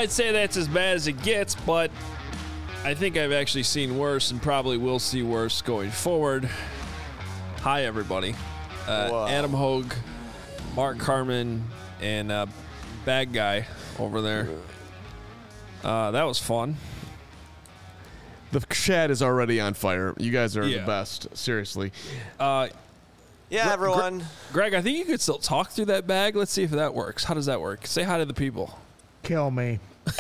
I'd say that's as bad as it gets, but I think I've actually seen worse and probably will see worse going forward. Hi, everybody. Adam Hogue, Mark Carman, and Bad Guy over there. That was fun. The chat is already on fire. You guys are the best. Seriously. Everyone. Greg, I think you could still talk through that bag. Let's see if that works. How does that work? Say hi to the people. Kill me.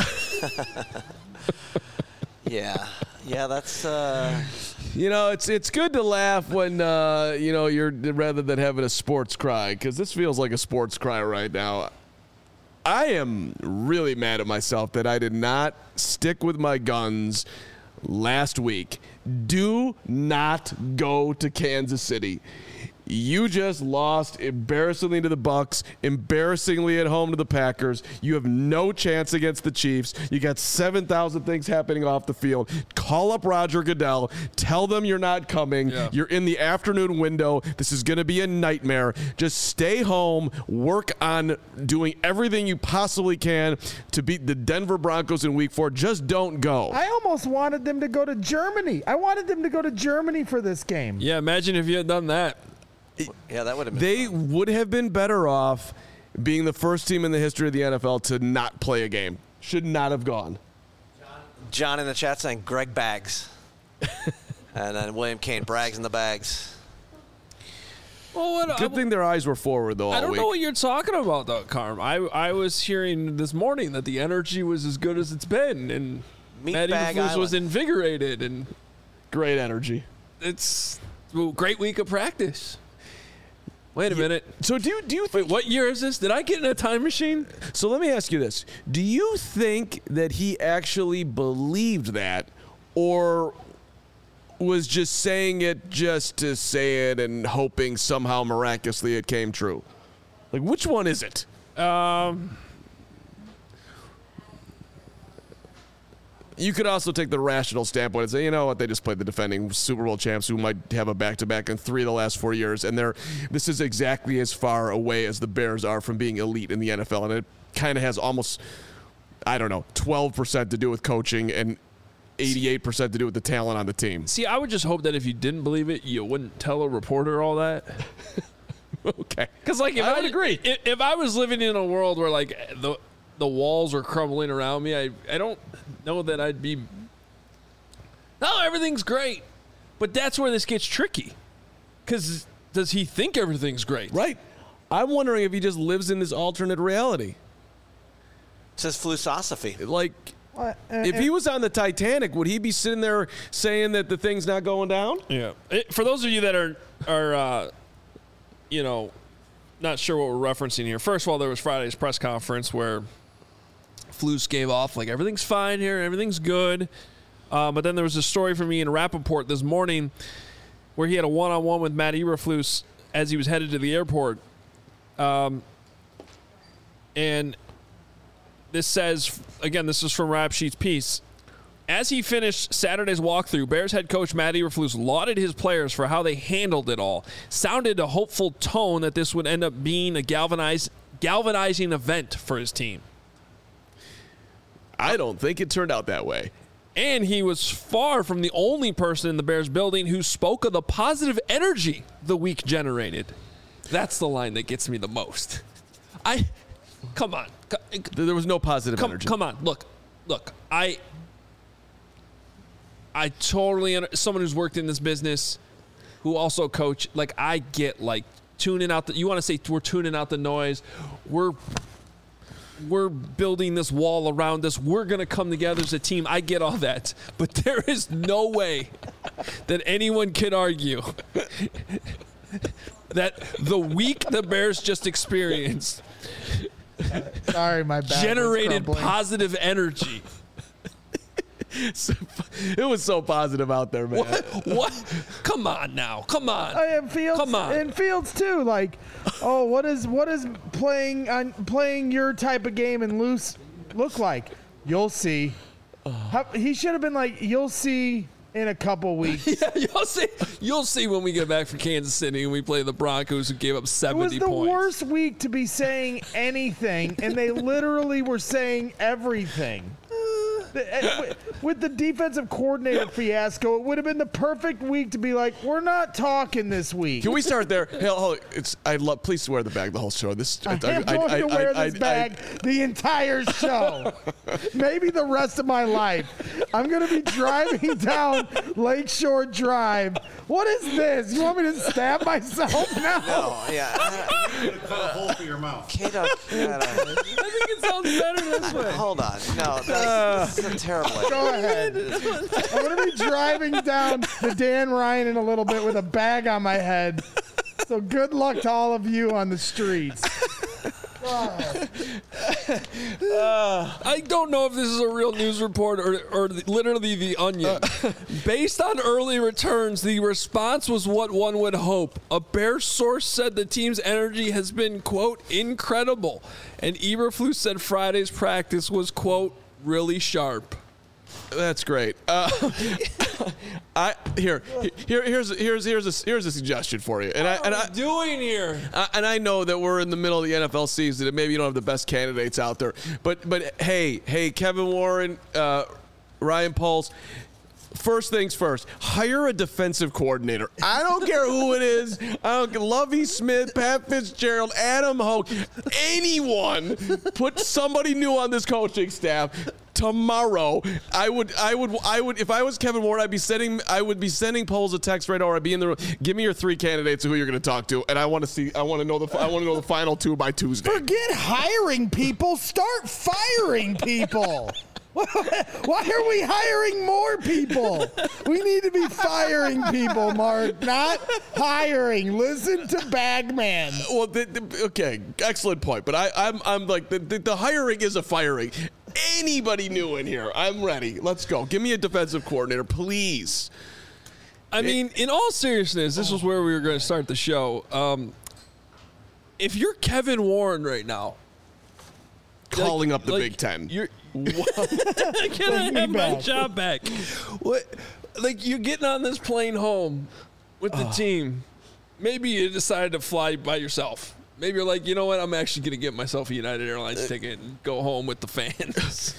Yeah, that's. It's good to laugh when you're rather than having a sports cry, because this feels like a sports cry right now. I am really mad at myself that I did not stick with my guns last week. Do not go to Kansas City. You just lost embarrassingly to the Bucs, embarrassingly at home to the Packers. You have no chance against the Chiefs. You got 7,000 things happening off the field. Call up Roger Goodell. Tell them you're not coming. Yeah. You're in the afternoon window. This is going to be a nightmare. Just stay home. Work on doing everything you possibly can to beat the Denver Broncos in Week 4. Just don't go. I almost wanted them to go to Germany. I wanted them to go to Germany for this game. Yeah, imagine if you had done that. Yeah, that would have been They fun. would have been better off being the first team in the history of the NFL to not play a game. Should not have gone. John in the chat saying Greg Bags. And then William Kane brags in the bags. Well, Good thing their eyes were forward, though, all I don't week. know what you're talking about, though, Carm. I was hearing this morning that the energy was as good as it's been, and Matty Eberflus was invigorated. And great energy. It's a great week of practice. Wait a minute. So do you think... Wait, what year is this? Did I get in a time machine? So let me ask you this. Do you think that he actually believed that, or was just saying it just to say it and hoping somehow miraculously it came true? Like, which one is it? You could also take the rational standpoint and say, you know what, they just played the defending Super Bowl champs who might have a back-to-back in 3 of the last 4 years, and this is exactly as far away as the Bears are from being elite in the NFL, and it kind of has almost, 12% to do with coaching and 88% to do with the talent on the team. See, I would just hope that if you didn't believe it, you wouldn't tell a reporter all that. Okay. Because, like, I would agree. If I was living in a world where, like, the walls are crumbling around me, I don't know that I'd be... No, everything's great. But that's where this gets tricky. Because does he think everything's great? Right. I'm wondering if he just lives in this alternate reality. It's his philosophy. Like, if he was on the Titanic, would he be sitting there saying that the thing's not going down? Yeah. For those of you that are not sure what we're referencing here. First of all, there was Friday's press conference where Flus gave off, like, everything's fine here, everything's good. But then there was a story from Ian Rappaport this morning where he had a one-on-one with Matt Eberflus as he was headed to the airport. And this says, again, this is from Rap Sheet's piece. As he finished Saturday's walkthrough, Bears head coach Matt Eberflus lauded his players for how they handled it all. Sounded a hopeful tone that this would end up being a galvanizing event for his team. I don't think it turned out that way. And he was far from the only person in the Bears building who spoke of the positive energy the week generated. That's the line that gets me the most. Come on. There was no positive energy. Come on. Look. I totally, someone who's worked in this business, who also coach, like, I get, like, tuning out you want to say we're tuning out the noise. We're building this wall around us. We're going to come together as a team. I get all that. But there is no way that anyone can argue that the week the Bears just experienced Sorry, my bad. generated positive energy. It was so positive out there, man. What? Come on now. Come on. And Fields, Come on. And Fields too. Like, what is playing your type of game and loose look like? You'll see. He should have been like, you'll see in a couple weeks. Yeah, you'll see when we get back from Kansas City and we play the Broncos, who gave up 70 points. It was the worst week to be saying anything, and they literally were saying everything. With the defensive coordinator fiasco, it would have been the perfect week to be like, we're not talking this week. Can we start there? Hell, please wear the bag the whole show. I'm going to wear this bag the entire show. Maybe the rest of my life. I'm going to be driving down Lakeshore Drive. What is this? You want me to stab myself now? No, yeah. Cut a hole for your mouth. Kato, I think it sounds better this way. hold on. No, this is a terrible idea. Go ahead. I'm going to be driving down the Dan Ryan in a little bit with a bag on my head. So good luck to all of you on the streets. I don't know if this is a real news report or literally The Onion. Based on early returns, the response was what one would hope. A Bears source said the team's energy has been, quote, incredible. And Eberflus said Friday's practice was, quote, really sharp. That's great. Here's a suggestion for you. And What are we doing here? And I know that we're in the middle of the NFL season, and maybe you don't have the best candidates out there. But hey, Kevin Warren, Ryan Poles. First things first, hire a defensive coordinator. I don't care who it is. I don't care. Lovie Smith, Pat Fitzgerald, Adam Hoke, anyone. Put somebody new on this coaching staff. Tomorrow, I would. If I was Kevin Warren, I would be sending Poles a text right now, or I'd be in the room. Give me your 3 candidates of who you're going to talk to, and I want to know the final 2 by Tuesday. Forget hiring people. Start firing people. Why are we hiring more people? We need to be firing people, Mark, not hiring. Listen to Bagman. Well, okay, excellent point. But I'm like the hiring is a firing. Anybody new in here? I'm ready. Let's go. Give me a defensive coordinator, please. I mean, in all seriousness, this was where we were going to start the show. If you're Kevin Warren right now, calling up the Big Ten. Can I have my job back? What? Like, you're getting on this plane home with the team. Maybe you decided to fly by yourself. Maybe you're like, you know what? I'm actually going to get myself a United Airlines ticket and go home with the fans.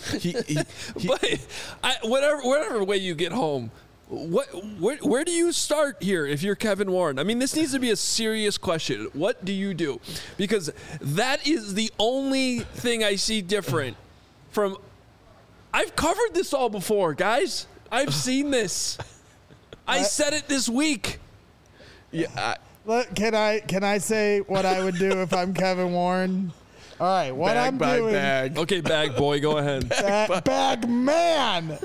But whatever way you get home, where do you start here if you're Kevin Warren? I mean, this needs to be a serious question. What do you do? Because that is the only thing I see different from. I've covered this all before, guys. I've seen this. I said it this week. Yeah. Can I say what I would do if I'm Kevin Warren? All right, what I'm doing. Bag. Okay, bag boy, go ahead. Bag man.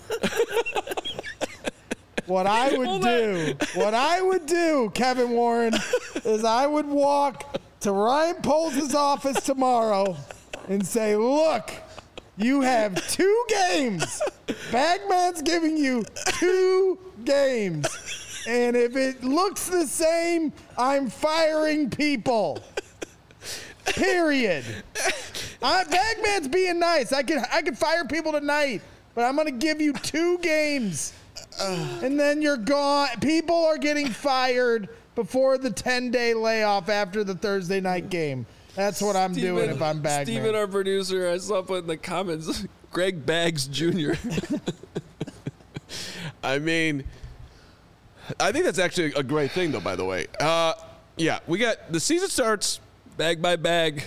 What I would do, Kevin Warren, is I would walk to Ryan Poles' office tomorrow and say, look, you have 2 games. Bagman's giving you 2 games. And if it looks the same, I'm firing people. Period. Bagman's being nice. I could fire people tonight, but I'm going to give you 2 games. And then you're gone. People are getting fired before the 10-day layoff after the Thursday night game. That's what I'm doing if I'm Bagman. Steven, our producer, I saw put in the comments, Greg Baggs Jr. I mean, I think that's actually a great thing, though, by the way. Yeah, we got the season starts. Bag by bag.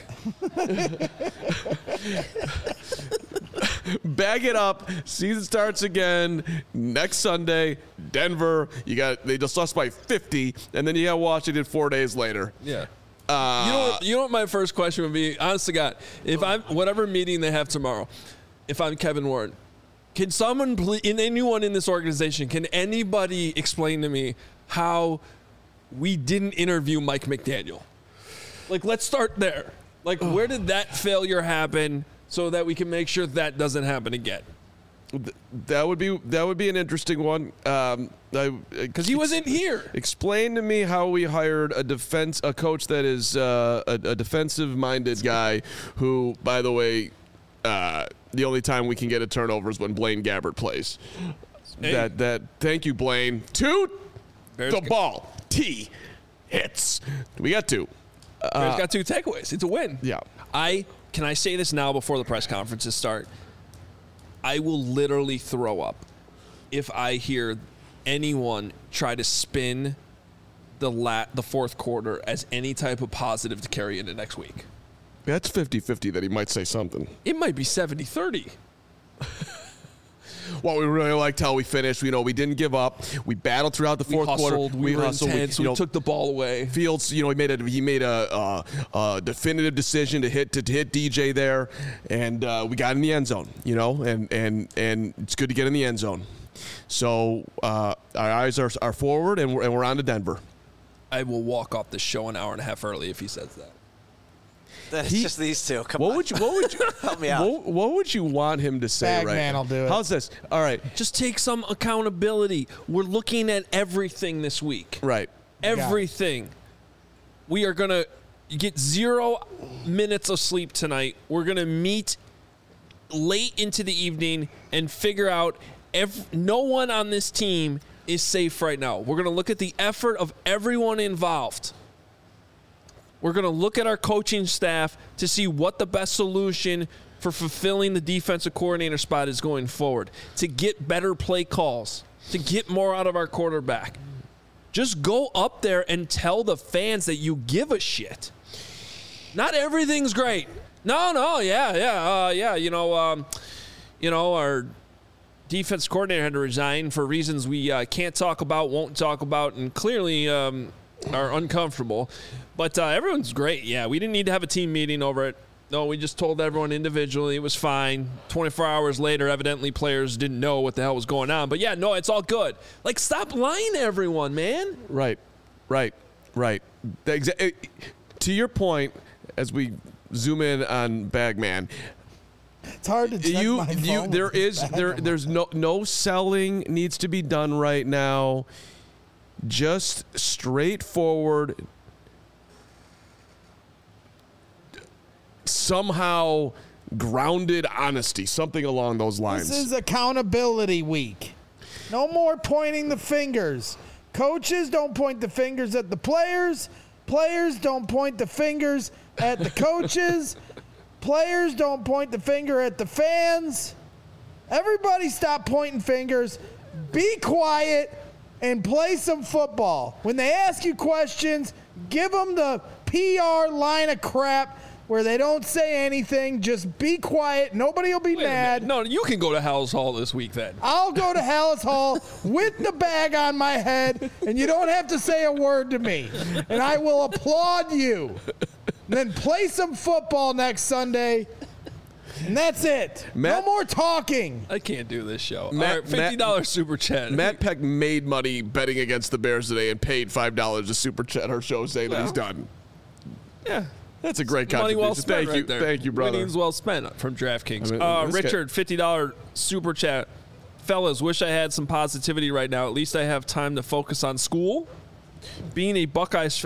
Bag it up. Season starts again next Sunday. Denver. They just lost by 50, and then you got Washington 4 days later. Yeah. You know what my first question would be? Honest to God, if I'm whatever meeting they have tomorrow, if I'm Kevin Warren, can someone, anyone in this organization, can anybody explain to me how we didn't interview Mike McDaniel? Like, let's start there. Like, where did that failure happen so that we can make sure that doesn't happen again? That would be an interesting one. Because he wasn't here. Explain to me how we hired a coach that is a defensive-minded guy who, by the way, the only time we can get a turnover is when Blaine Gabbert plays. Hey. Thank you, Blaine. Two, Bears the ball. T hits. We got two. Bears got 2 takeaways. It's a win. Yeah. Can I say this now before the press conferences start? I will literally throw up if I hear anyone try to spin the fourth quarter as any type of positive to carry into next week. That's 50-50 that he might say something. It might be 70-30. Well, we really liked how we finished. You know, we didn't give up. We battled throughout the fourth quarter. We were intense. We took the ball away. Fields, you know, he made a definitive decision to hit DJ there, and we got in the end zone. You know, and it's good to get in the end zone. So our eyes are forward, and we're on to Denver. I will walk off the show an hour and a half early if he says that. Then it's just these two. Come on. What would you help me out? What would you want him to say right Bagman now? will do it. How's this? All right. Just take some accountability. We're looking at everything this week. Right. Everything. We are going to get 0 minutes of sleep tonight. We're going to meet late into the evening and figure out no one on this team is safe right now. We're going to look at the effort of everyone involved. We're going to look at our coaching staff to see what the best solution for fulfilling the defensive coordinator spot is going forward, to get better play calls, to get more out of our quarterback. Just go up there and tell the fans that you give a shit. Not everything's great. No, yeah. Our defense coordinator had to resign for reasons we can't talk about, won't talk about, and clearly are uncomfortable. But everyone's great. Yeah, we didn't need to have a team meeting over it. No, we just told everyone individually. It was fine. 24 hours later, evidently players didn't know what the hell was going on. But, yeah, no, it's all good. Like, stop lying to everyone, man. Right. To your point, as we zoom in on Bagman, It's hard to check my phone there's no selling needs to be done right now. Just straightforward, somehow grounded honesty, something along those lines. This is accountability week. No more pointing the fingers. Coaches don't point the fingers at the players. Players don't point the fingers at the coaches. Players don't point the finger at the fans. Everybody stop pointing fingers. Be quiet and play some football. When they ask you questions, give them the PR line of crap where they don't say anything. Just be quiet. Nobody will be mad. No, you can go to Hal's Hall this week then. I'll go to Hal's Hall with the bag on my head, and you don't have to say a word to me. And I will applaud you. And then play some football next Sunday. And that's it. No more talking. I can't do this show. $50 super chat. Matt Peck made money betting against the Bears today and paid $5 to super chat our show saying that he's done. Yeah. That's a great Money contribution. well spent Thank you. there. Thank you, brother. Winnings well spent from DraftKings. I mean, Richard, $50 super chat. Fellas, wish I had some positivity right now. At least I have time to focus on school. Being a Buckeyes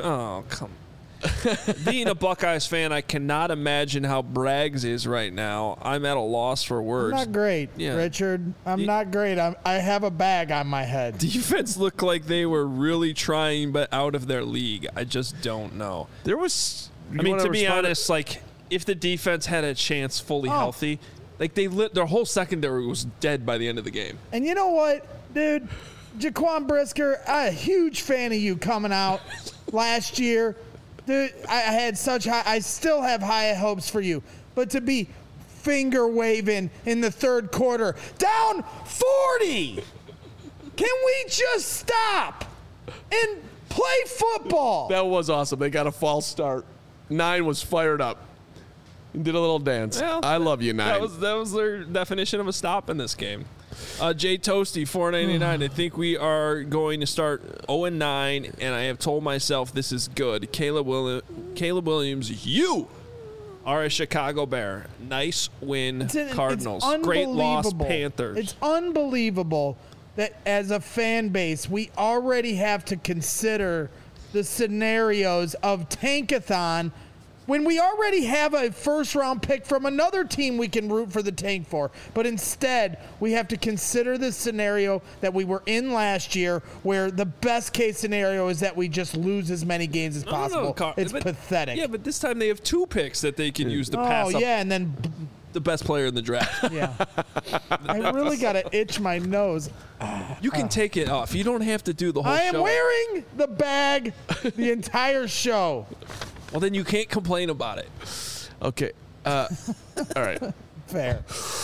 Being a Buckeyes fan, I cannot imagine how Braggs is right now. I'm at a loss for words. I'm not great, Richard. I'm not great. I have a bag on my head. Defense looked like they were really trying, but out of their league. I just don't know. There was... to be honest, like, if the defense had a chance fully healthy, like, their whole secondary was dead by the end of the game. And you know what, dude? Jaquan Brisker, I'm a huge fan of you coming out last year. Dude, I still have high hopes for you. But to be finger waving in the third quarter, down 40! Can we just stop and play football? That was awesome. They got a false start. 9 was fired up. He did a little dance. Well, I love you, 9. That was their definition of a stop in this game. Jay Toasty, $4.99. I think we are going to start 0-9, and I have told myself this is good. Caleb Williams, you are a Chicago Bear. Nice win, Cardinals. Great loss, Panthers. It's unbelievable that as a fan base, we already have to consider the scenarios of Tankathon when we already have a first-round pick from another team we can root for the tank for. But instead, we have to consider the scenario that we were in last year, where the best-case scenario is that we just lose as many games as possible. It's pathetic. Yeah, but this time they have 2 picks that they can use to pass up and then the best player in the draft. Yeah. I really got to itch my nose. You can take it off. You don't have to do the whole show. I am wearing the bag the entire show. Well, then you can't complain about it. Okay. All right. Fair.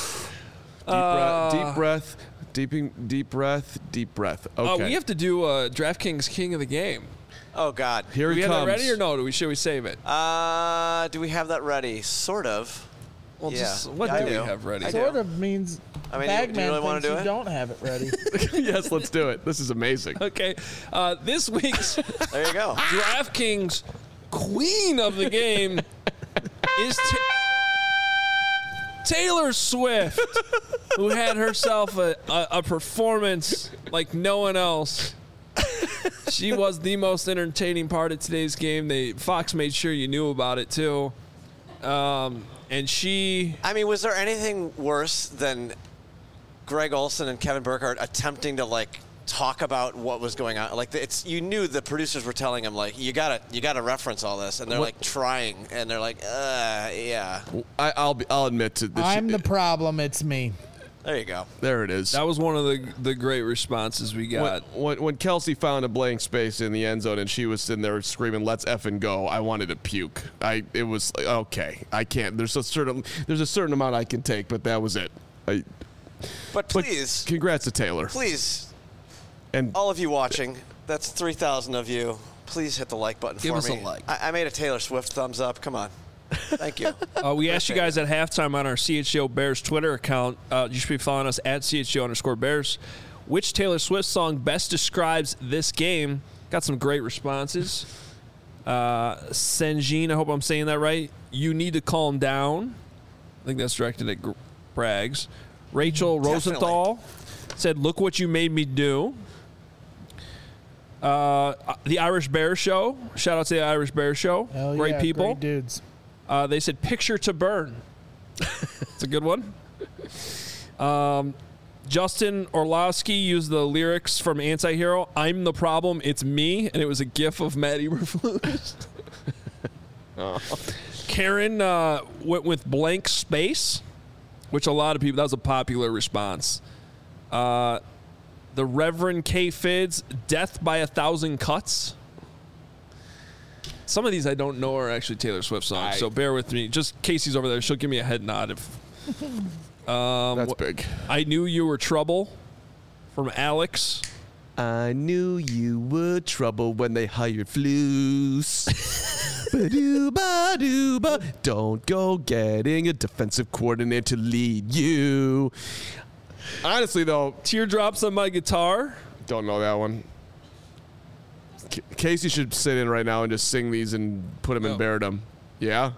Deep breath. Deep breath. Okay. We have to do DraftKings King of the Game. Oh, God. Here Do we he have comes. that ready or no? Should we save it? Do we have that ready? Sort of. Well, Yeah. just what Yeah, I do we do. have ready? I do. Sort of means I mean, Bagman do you really want thinks to do you it? don't have it ready. Yes, let's do it. This is amazing. Okay. This week's There you go. DraftKings Queen of the Game is Taylor Swift, who had herself a performance like no one else. She was the most entertaining part of today's game. Fox made sure you knew about it too. And she... I mean, was there anything worse than Greg Olson and Kevin Burkhardt attempting to, like, talk about what was going on? Like, you knew the producers were telling them, like, you gotta reference all this, and they're like trying, and they're like, yeah. I'll admit to this. I'm the problem. It's me. There you go. There it is. That was one of the great responses we got. When Kelsey found a blank space in the end zone and she was sitting there screaming, "Let's effing go!" I wanted to puke. It was like, okay. I can't. There's a certain amount I can take, but that was it. But please, congrats to Taylor. please, And all of you watching, that's 3,000 of you. Please hit the like button Give for us me. a like. I made a Taylor Swift thumbs up. Come on. Thank you. We asked you guys at halftime on our CHGO Bears Twitter account. You should be following us at CHGO_Bears. Which Taylor Swift song best describes this game? Got some great responses. Senjin, I hope I'm saying that right. You Need to Calm Down. I think that's directed at Braggs. Rachel Rosenthal said, "Look What You Made Me Do." The Irish Bear Show. Shout out to the Irish Bear Show. Hell Great yeah, people. Great dudes. They said Picture to Burn. It's a good one. Justin Orlowski used the lyrics from Anti-Hero, "I'm the problem, it's me," and it was a gif of Matt Eberflus. Karen went with Blank Space, which a lot of people, that was a popular response. The Reverend K. Fids, Death by 1,000 Cuts. Some of these I don't know are actually Taylor Swift songs, so bear with me. Just Casey's over there. She'll give me a head nod. that's big. I Knew You Were Trouble from Alex. I knew you were trouble when they hired Flus. Ba-doo-ba-doo-ba. Don't go getting a defensive coordinator to lead you. Honestly, though, Teardrops on My Guitar. don't know that one. Casey should sit in right now and just sing these and put them in Beardom. Yeah?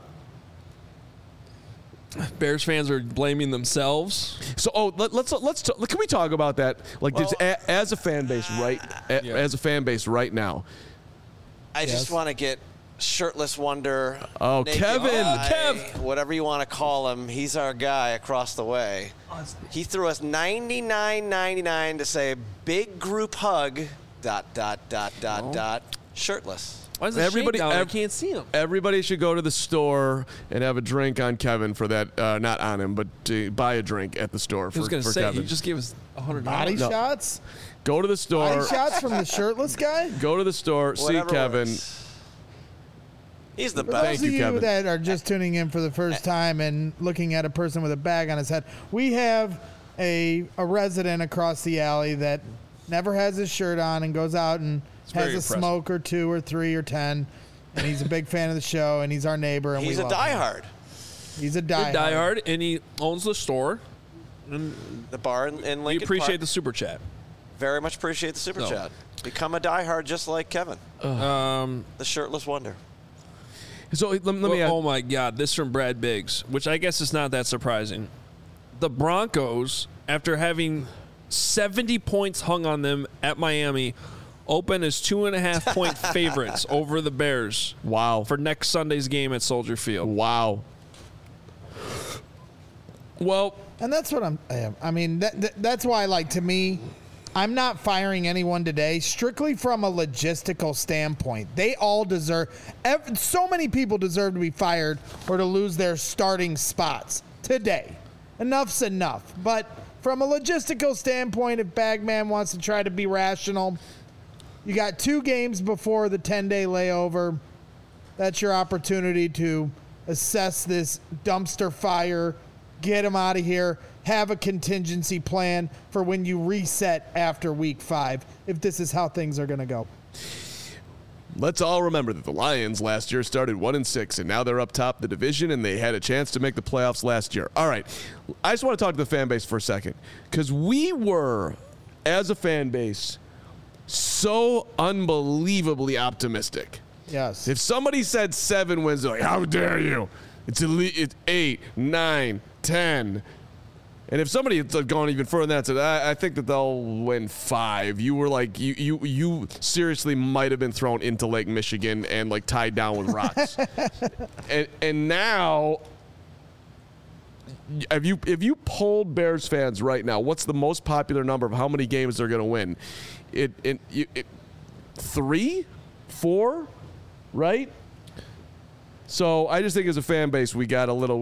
Bears fans are blaming themselves. So, let's can we talk about that? Like, Well, as a fan base, right? As a fan base right now. I just want to get Shirtless Wonder. Oh, Naked Kevin. Guy, Kev. whatever you want to call him. He's our guy across the way. He threw us $99.99 to say big group hug. ... Shirtless. Why is the Everybody- shade down? I can't see him. Everybody should go to the store and have a drink on Kevin for that. Not on him, but to buy a drink at the store I for, was going to for say, Kevin. he just gave us $100. Body shots? Go to the store. Body shots from the shirtless guy? Go to the store. Whatever See Kevin. works. He's the For best. Thank those you, of you Kevin. that are just tuning in for the first time and looking at a person with a bag on his head, we have a resident across the alley that never has his shirt on and goes out and has very a impressive. smoke or 2 or 3 or 10. And he's a big fan of the show, and he's our neighbor. And He's we a love him. diehard. He's a Good diehard. diehard, and he owns the store. The bar in Lincoln We appreciate Park. the super chat. Very much appreciate the super No. chat. Become a diehard just like Kevin. The Shirtless Wonder. So let me ask. Oh my God, this from Brad Biggs, which I guess is not that surprising. The Broncos, after having 70 points hung on them at Miami, open as 2.5-point favorites over the Bears. Wow. For next Sunday's game at Soldier Field. Wow. Well, and that's what I mean, that's why, like, to me, I'm not firing anyone today strictly from a logistical standpoint. They all deserve, so many people deserve to be fired or to lose their starting spots today. Enough's enough. But from a logistical standpoint, if Bagman wants to try to be rational, you got 2 games before the 10-day layover. That's your opportunity to assess this dumpster fire, get him out of here, have a contingency plan for when you reset after week 5, if this is how things are going to go. let's all remember that the Lions last year started 1-6, and now they're up top the division, and they had a chance to make the playoffs last year. All right, I just want to talk to the fan base for a second, because we were, as a fan base, so unbelievably optimistic. Yes. If somebody said 7 wins, they're like, how dare you? It's 8, 9, 10. And if somebody had gone even further than that, said, I think that they'll win 5. You were like, you seriously might have been thrown into Lake Michigan and like tied down with rocks. and now, if you polled Bears fans right now, what's the most popular number of how many games they're going to win? 3, 4, right? So I just think as a fan base, we got a little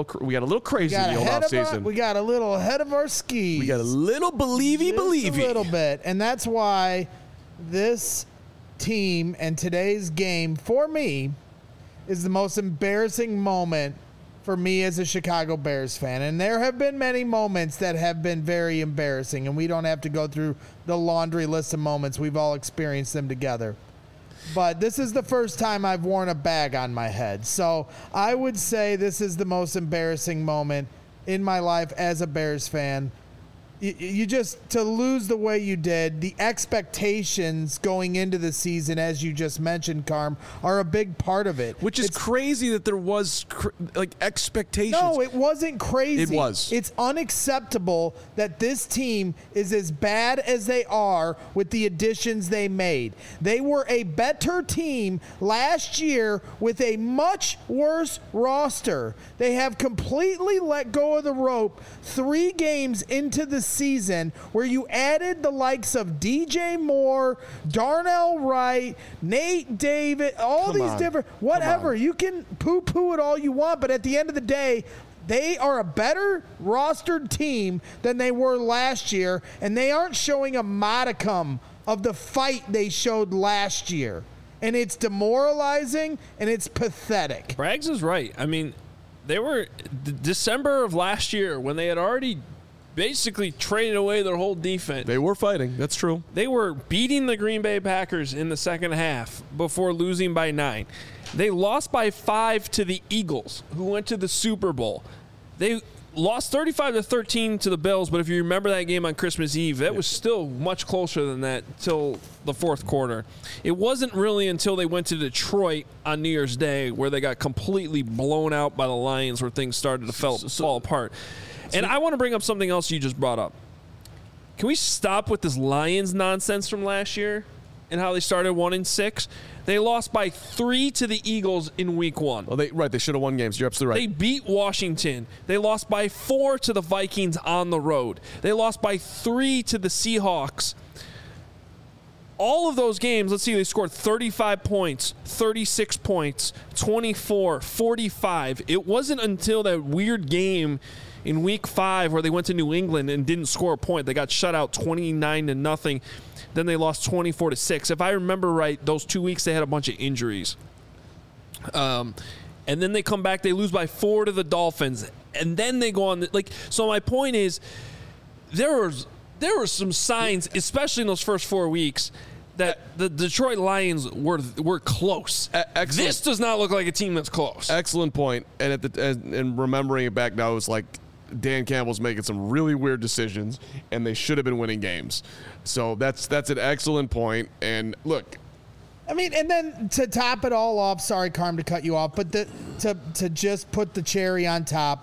crazy in the old offseason. We got a little ahead of our skis. We got a little believey. A little bit. And that's why this team and today's game, for me, is the most embarrassing moment for me as a Chicago Bears fan. And there have been many moments that have been very embarrassing, and we don't have to go through the laundry list of moments. We've all experienced them together. But this is the first time I've worn a bag on my head. So I would say this is the most embarrassing moment in my life as a Bears fan. You just, to lose the way you did, the expectations going into the season, as you just mentioned, Carm, are a big part of it. Which is crazy that there was expectations. No, it wasn't crazy. It was. It's unacceptable that this team is as bad as they are with the additions they made. They were a better team last year with a much worse roster. They have completely let go of the rope 3 games into the season, where you added the likes of DJ Moore, Darnell Wright, Nate David, all these different, whatever. You can poo-poo it all you want, but at the end of the day, they are a better rostered team than they were last year, and they aren't showing a modicum of the fight they showed last year. And it's demoralizing, and it's pathetic. Braggs is right. I mean, they were December of last year, when they had already basically traded away their whole defense. They were fighting. That's true. They were beating the Green Bay Packers in the second half before losing by 9. They lost by 5 to the Eagles, who went to the Super Bowl. They lost 35-13 to the Bills, but if you remember that game on Christmas Eve, that was still much closer than that till the fourth quarter. It wasn't really until they went to Detroit on New Year's Day where they got completely blown out by the Lions, where things started to fall apart. And I want to bring up something else you just brought up. Can we stop with this Lions nonsense from last year and how they started 1-6? They lost by 3 to the Eagles in week 1. Well, they should have won games. You're absolutely right. They beat Washington. They lost by 4 to the Vikings on the road. They lost by 3 to the Seahawks. All of those games, let's see, they scored 35 points, 36 points, 24, 45. It wasn't until that weird game in week 5 where they went to New England and didn't score a point. They got shut out 29-0. Then they lost 24-6. If I remember right, those 2 weeks they had a bunch of injuries. And then they come back, they lose by 4 to the Dolphins. And then they go on. So my point is, there were some signs, especially in those first 4 weeks, that the Detroit Lions were close. This does not look like a team that's close. Excellent point. And remembering it back now, it was like Dan Campbell's making some really weird decisions, and they should have been winning games. So that's an excellent point. And look, I mean, and then to top it all off, sorry, Carm, to cut you off, but to just put the cherry on top,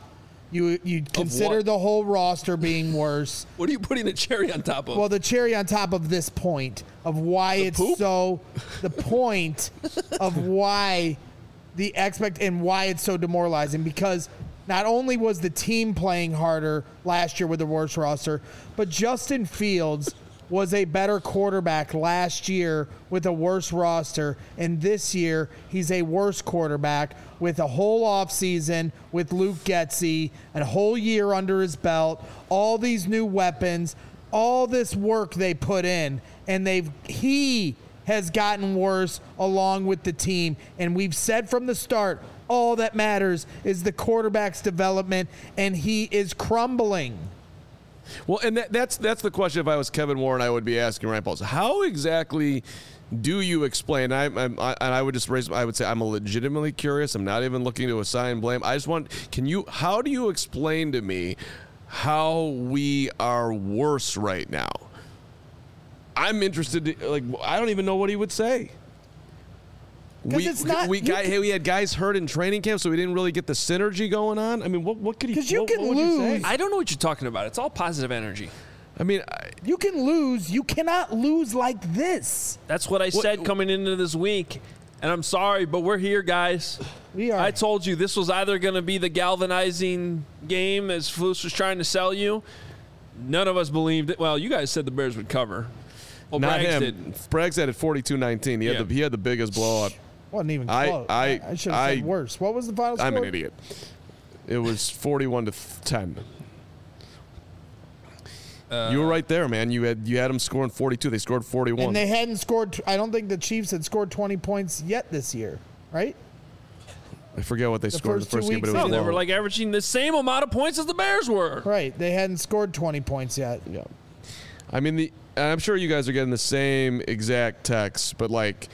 You consider the whole roster being worse. What are you putting the cherry on top of? Well, the cherry on top of this point of why the point of why and why it's so demoralizing, because not only was the team playing harder last year with the worst roster, but Justin Fields was a better quarterback last year with a worse roster, and this year he's a worse quarterback with a whole offseason with Luke Getsy, a whole year under his belt, all these new weapons, all this work they put in, and he has gotten worse along with the team. And we've said from the start, all that matters is the quarterback's development, and he is crumbling. Well, and that's the question. If I was Kevin Warren, I would be asking Ryan Poles, how exactly do you explain? I would just raise. I would say I'm legitimately curious. I'm not even looking to assign blame. I just want. How do you explain to me how we are worse right now? I'm interested. I don't even know what he would say. We had guys hurt in training camp, so we didn't really get the synergy going on. I mean, what could he? Because you can lose. I don't know what you're talking about. It's all positive energy. I mean, you can lose. You cannot lose like this. That's what I said coming into this week. And I'm sorry, but we're here, guys. We are. I told you this was either going to be the galvanizing game as Flus was trying to sell you. None of us believed it. Well, you guys said the Bears would cover. Well, not Braggs him. did. Braggs had it 42-19. He had the biggest blowout. Wasn't even close. I should have said worse. What was the final score? I'm an idiot. It was 41-10. You were right there, man. You had them scoring 42. They scored 41. And they hadn't scored. I don't think the Chiefs had scored 20 points yet this year, right? I forget what they scored in the first game, but it was no, they low. were like averaging the same amount of points as the Bears were. Right. They hadn't scored 20 points yet. Yeah. I mean, I'm sure you guys are getting the same exact text, but like.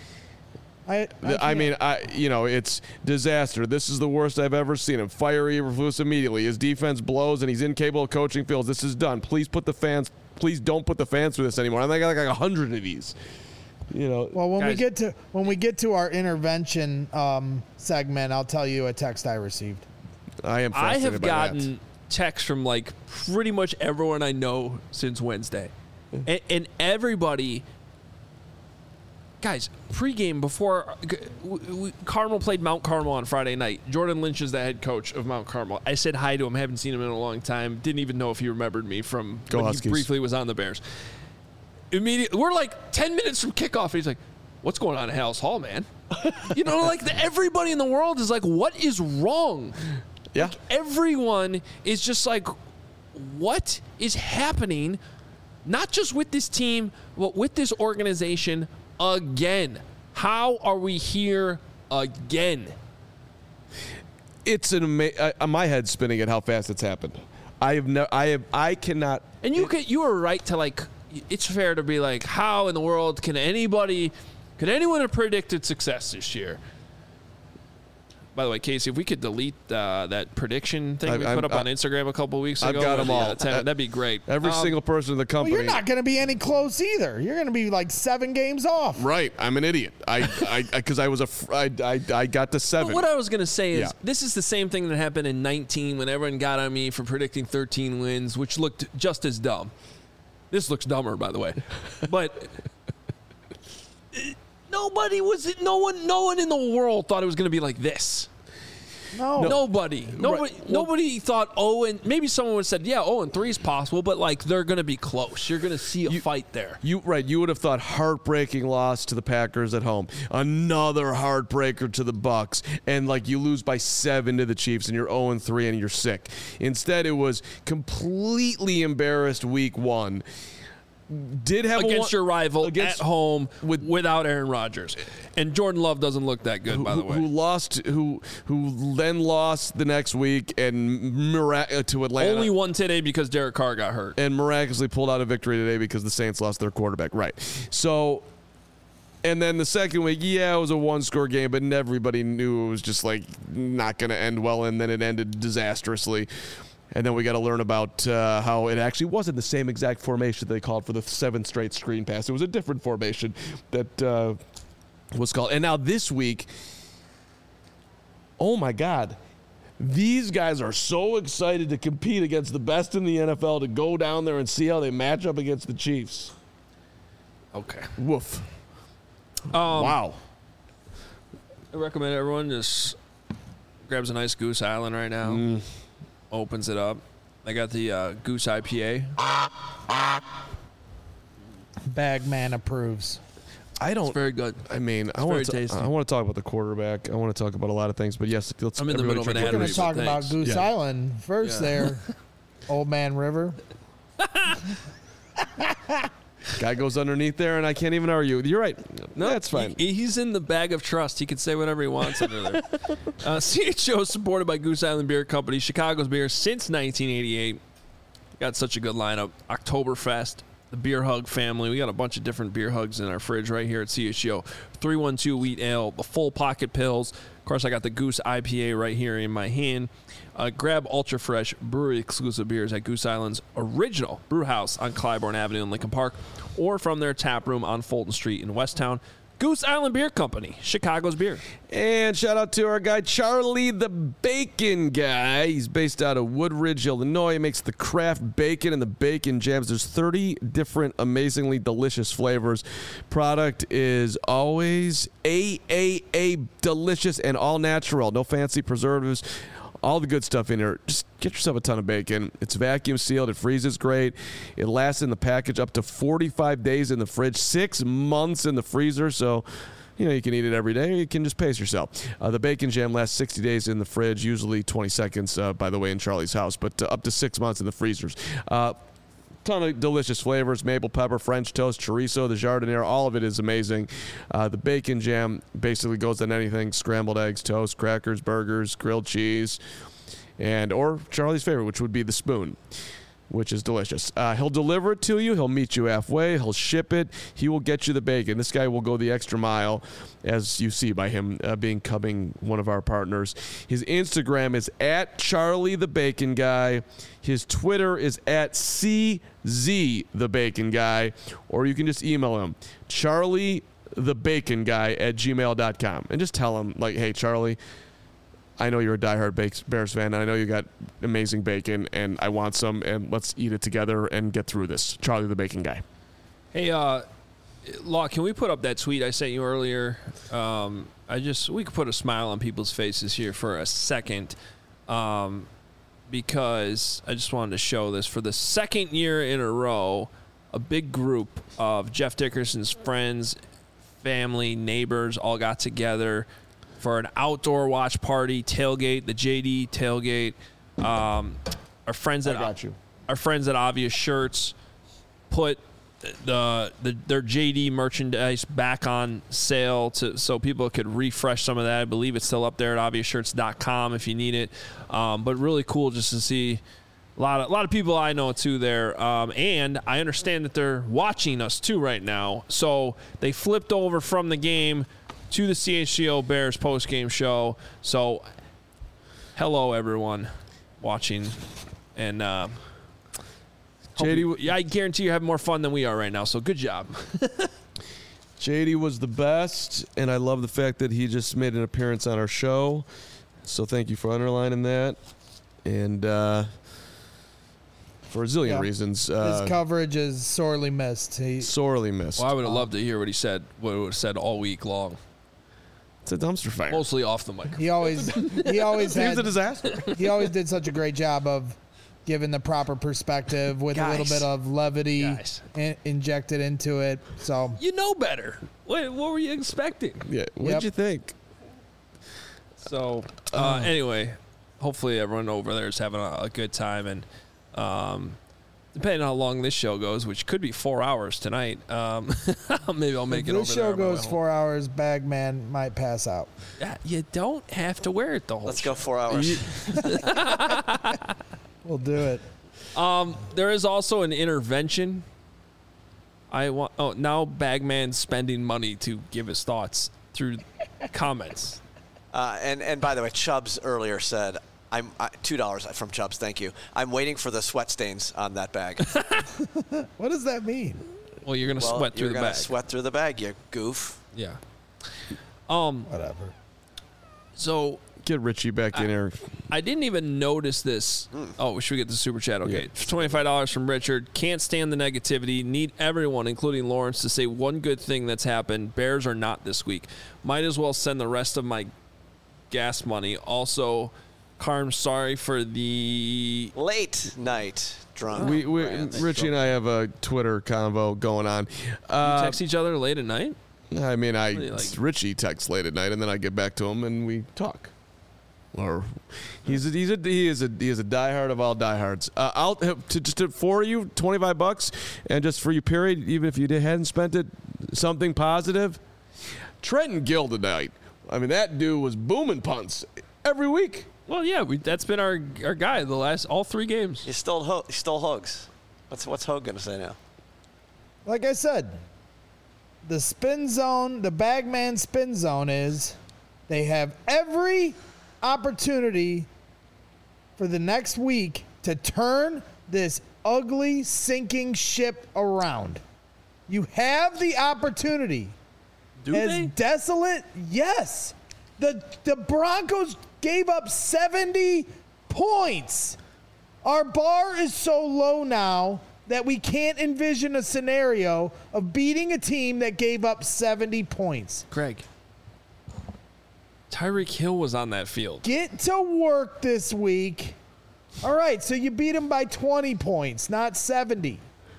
It's disaster. This is the worst I've ever seen him. Fire Eberflus immediately. His defense blows, and he's incapable of coaching Fields. This is done. Please don't put the fans through this anymore. I got like 100 of these. Well, when we get to our intervention segment, I'll tell you a text I received. I have gotten texts from like pretty much everyone I know since Wednesday, and everybody. Guys, pregame before Carmel played Mount Carmel on Friday night. Jordan Lynch is the head coach of Mount Carmel. I said hi to him. Haven't seen him in a long time. Didn't even know if he remembered me from when he briefly was on the Bears. Immediately, we're like 10 minutes from kickoff. He's like, "What's going on at Hal's Hall, man?" Everybody in the world is like, "What is wrong?" Yeah. Like, everyone is just like, "What is happening?" Not just with this team, but with this organization. Again, how are we here again? It's my head's spinning at how fast it's happened. I cannot. And you are right to like. It's fair to be like, how in the world can anyone have predicted success this year? By the way, Casey, if we could delete that prediction thing we put up on Instagram a couple weeks ago. I've got them all. That'd be great. Every single person in the company. Well, you're not going to be any close either. You're going to be like 7 games off. Right. I'm an idiot. Because I got to 7. But what I was going to say is this is the same thing that happened in 19 when everyone got on me for predicting 13 wins, which looked just as dumb. This looks dumber, by the way. But no one in the world thought it was going to be like this. No. Nobody thought, and maybe someone would have said, 0-3 is possible, but like they're going to be close. You're going to see a fight there. You would have thought heartbreaking loss to the Packers at home, another heartbreaker to the Bucs, and like you lose by 7 to the Chiefs, and you're 0-3 and you're sick. Instead, it was completely embarrassed week 1. Did have against your rival at home without Aaron Rodgers, and Jordan Love doesn't look that good, by the way. Who then lost the next week and to Atlanta. Only won today because Derek Carr got hurt, and miraculously pulled out a victory today because the Saints lost their quarterback. Right. So, and then the second week, it was a 1-score game, but everybody knew it was just like not going to end well, and then it ended disastrously. And then we got to learn about how it actually wasn't the same exact formation they called for the 7 straight screen pass. It was a different formation that was called. And now this week, oh my God, These guys are so excited to compete against the best in the NFL, to go down there and see how they match up against the Chiefs. Okay. Woof. Wow. I recommend everyone just grabs a nice Goose Island right now, opens it up. I got the Goose IPA. Bagman approves. It's very good. I mean, I very want to tasty. talk about the quarterback. I want to talk about a lot of things, but yes, let's. I'm in the middle of an everybody ad We're drink going to read. talk about Thanks. Goose Yeah. Island first there, Old Man River. Guy goes underneath there, and I can't even argue. You're right. No, that's fine. He's in the bag of trust. He can say whatever he wants under there. CHO is supported by Goose Island Beer Company, Chicago's beer since 1988. Got such a good lineup. Oktoberfest, the Beer Hug family. We got a bunch of different beer hugs in our fridge right here at CHO. 312 Wheat Ale, the Full Pocket Pills. Of course, I got the Goose IPA right here in my hand. Grab Ultra Fresh brewery exclusive beers at Goose Island's original brew house on Clybourne Avenue in Lincoln Park, or from their tap room on Fulton Street in Westtown. Goose Island Beer Company, Chicago's beer. And shout out to our guy, Charlie the Bacon Guy. He's based out of Woodridge, Illinois. He makes the craft bacon and the bacon jams. There's 30 different amazingly delicious flavors. Product is always AAA delicious and all natural. No fancy preservatives. All the good stuff in here. Just get yourself a ton of bacon. It's vacuum sealed. It freezes great. It lasts in the package up to 45 days in the fridge, 6 months in the freezer. So, you can eat it every day, or you can just pace yourself. The bacon jam lasts 60 days in the fridge, usually 20 seconds, by the way, in Charlie's house, but up to 6 months in the freezers. Ton of delicious flavors: maple pepper, French toast, chorizo, the jardiniere. All of it is amazing. The bacon jam basically goes on anything: scrambled eggs, toast, crackers, burgers, grilled cheese, or Charlie's favorite, which would be the spoon, which is delicious. He'll deliver it to you. He'll meet you halfway. He'll ship it. He will get you the bacon. This guy will go the extra mile, as you see by him becoming one of our partners. His Instagram is at Charlie the Bacon Guy. His Twitter is at CZ the Bacon Guy. Or you can just email him, charliethebaconguy@gmail.com. And just tell him, hey, Charlie, I know you're a diehard Bears fan, and I know you got amazing bacon, and I want some, and let's eat it together and get through this. Charlie the Bacon Guy. Hey, Law, can we put up that tweet I sent you earlier? We could put a smile on people's faces here for a second, because I just wanted to show this. For the second year in a row, a big group of Jeff Dickerson's friends, family, neighbors all got together for an outdoor watch party, tailgate, the JD tailgate. Our friends at Obvious Shirts put their JD merchandise back on sale so people could refresh some of that. I believe it's still up there at obviousshirts.com if you need it. But really cool just to see a lot of people I know too there. And I understand that they're watching us too right now. So they flipped over from the game to the CHGO Bears post-game show. So, hello, everyone watching. And JD, I guarantee you're having more fun than we are right now, so good job. JD was the best, and I love the fact that he just made an appearance on our show. So thank you for underlining that. And for a zillion reasons. His coverage is sorely missed. Sorely missed. Well, I would have loved to hear what he said, what he would have said all week long. It's a dumpster fire. Mostly off the mic. He always He was a disaster. He always did such a great job of giving the proper perspective with a little bit of levity injected into it. So you know better. What were you expecting? Yeah. What did you think? So anyway, hopefully everyone over there is having a good time, and depending on how long this show goes, which could be 4 hours tonight, maybe I'll make it over there. If this show goes 4 hours, Bagman might pass out. You don't have to wear it the whole Let's show. go 4 hours. We'll do it. There is also an intervention. Now Bagman's spending money to give his thoughts through comments. And by the way, Chubbs earlier said, I'm $2 from Chubbs. Thank you. I'm waiting for the sweat stains on that bag. What does that mean? Well, you're gonna sweat through the bag. Sweat through the bag, you goof. Yeah. Whatever. So Get Richie back in here. I didn't even notice this. Oh, should we get the super chat? Okay. $25 from Richard. Can't stand the negativity. Need everyone, including Lawrence, to say one good thing that's happened. Bears are not this week. Might as well send the rest of my gas money. Also, Carm, sorry for the Late night drunk. Richie and I have a Twitter convo going on. text each other late at night. I mean, like? Richie texts late at night, and then I get back to him and we talk. Or he is a diehard of all diehards. I'll for you $25, and just for you, period. Even if you hadn't spent it, something positive. Trenton Gill tonight. I mean, that dude was booming punts every week. Well, yeah, that's been our guy all 3 games. He stole Hogs. What's Hogue gonna say now? Like I said, the spin zone, the Bagman spin zone is they have every opportunity for the next week to turn this ugly sinking ship around. You have the opportunity. Do As they? desolate, yes. The Broncos gave up 70 points. Our bar is so low now that we can't envision a scenario of beating a team that gave up 70 points. Greg, Tyreek Hill was on that field. Get to work this week. All right, so you beat him by 20 points, not 70.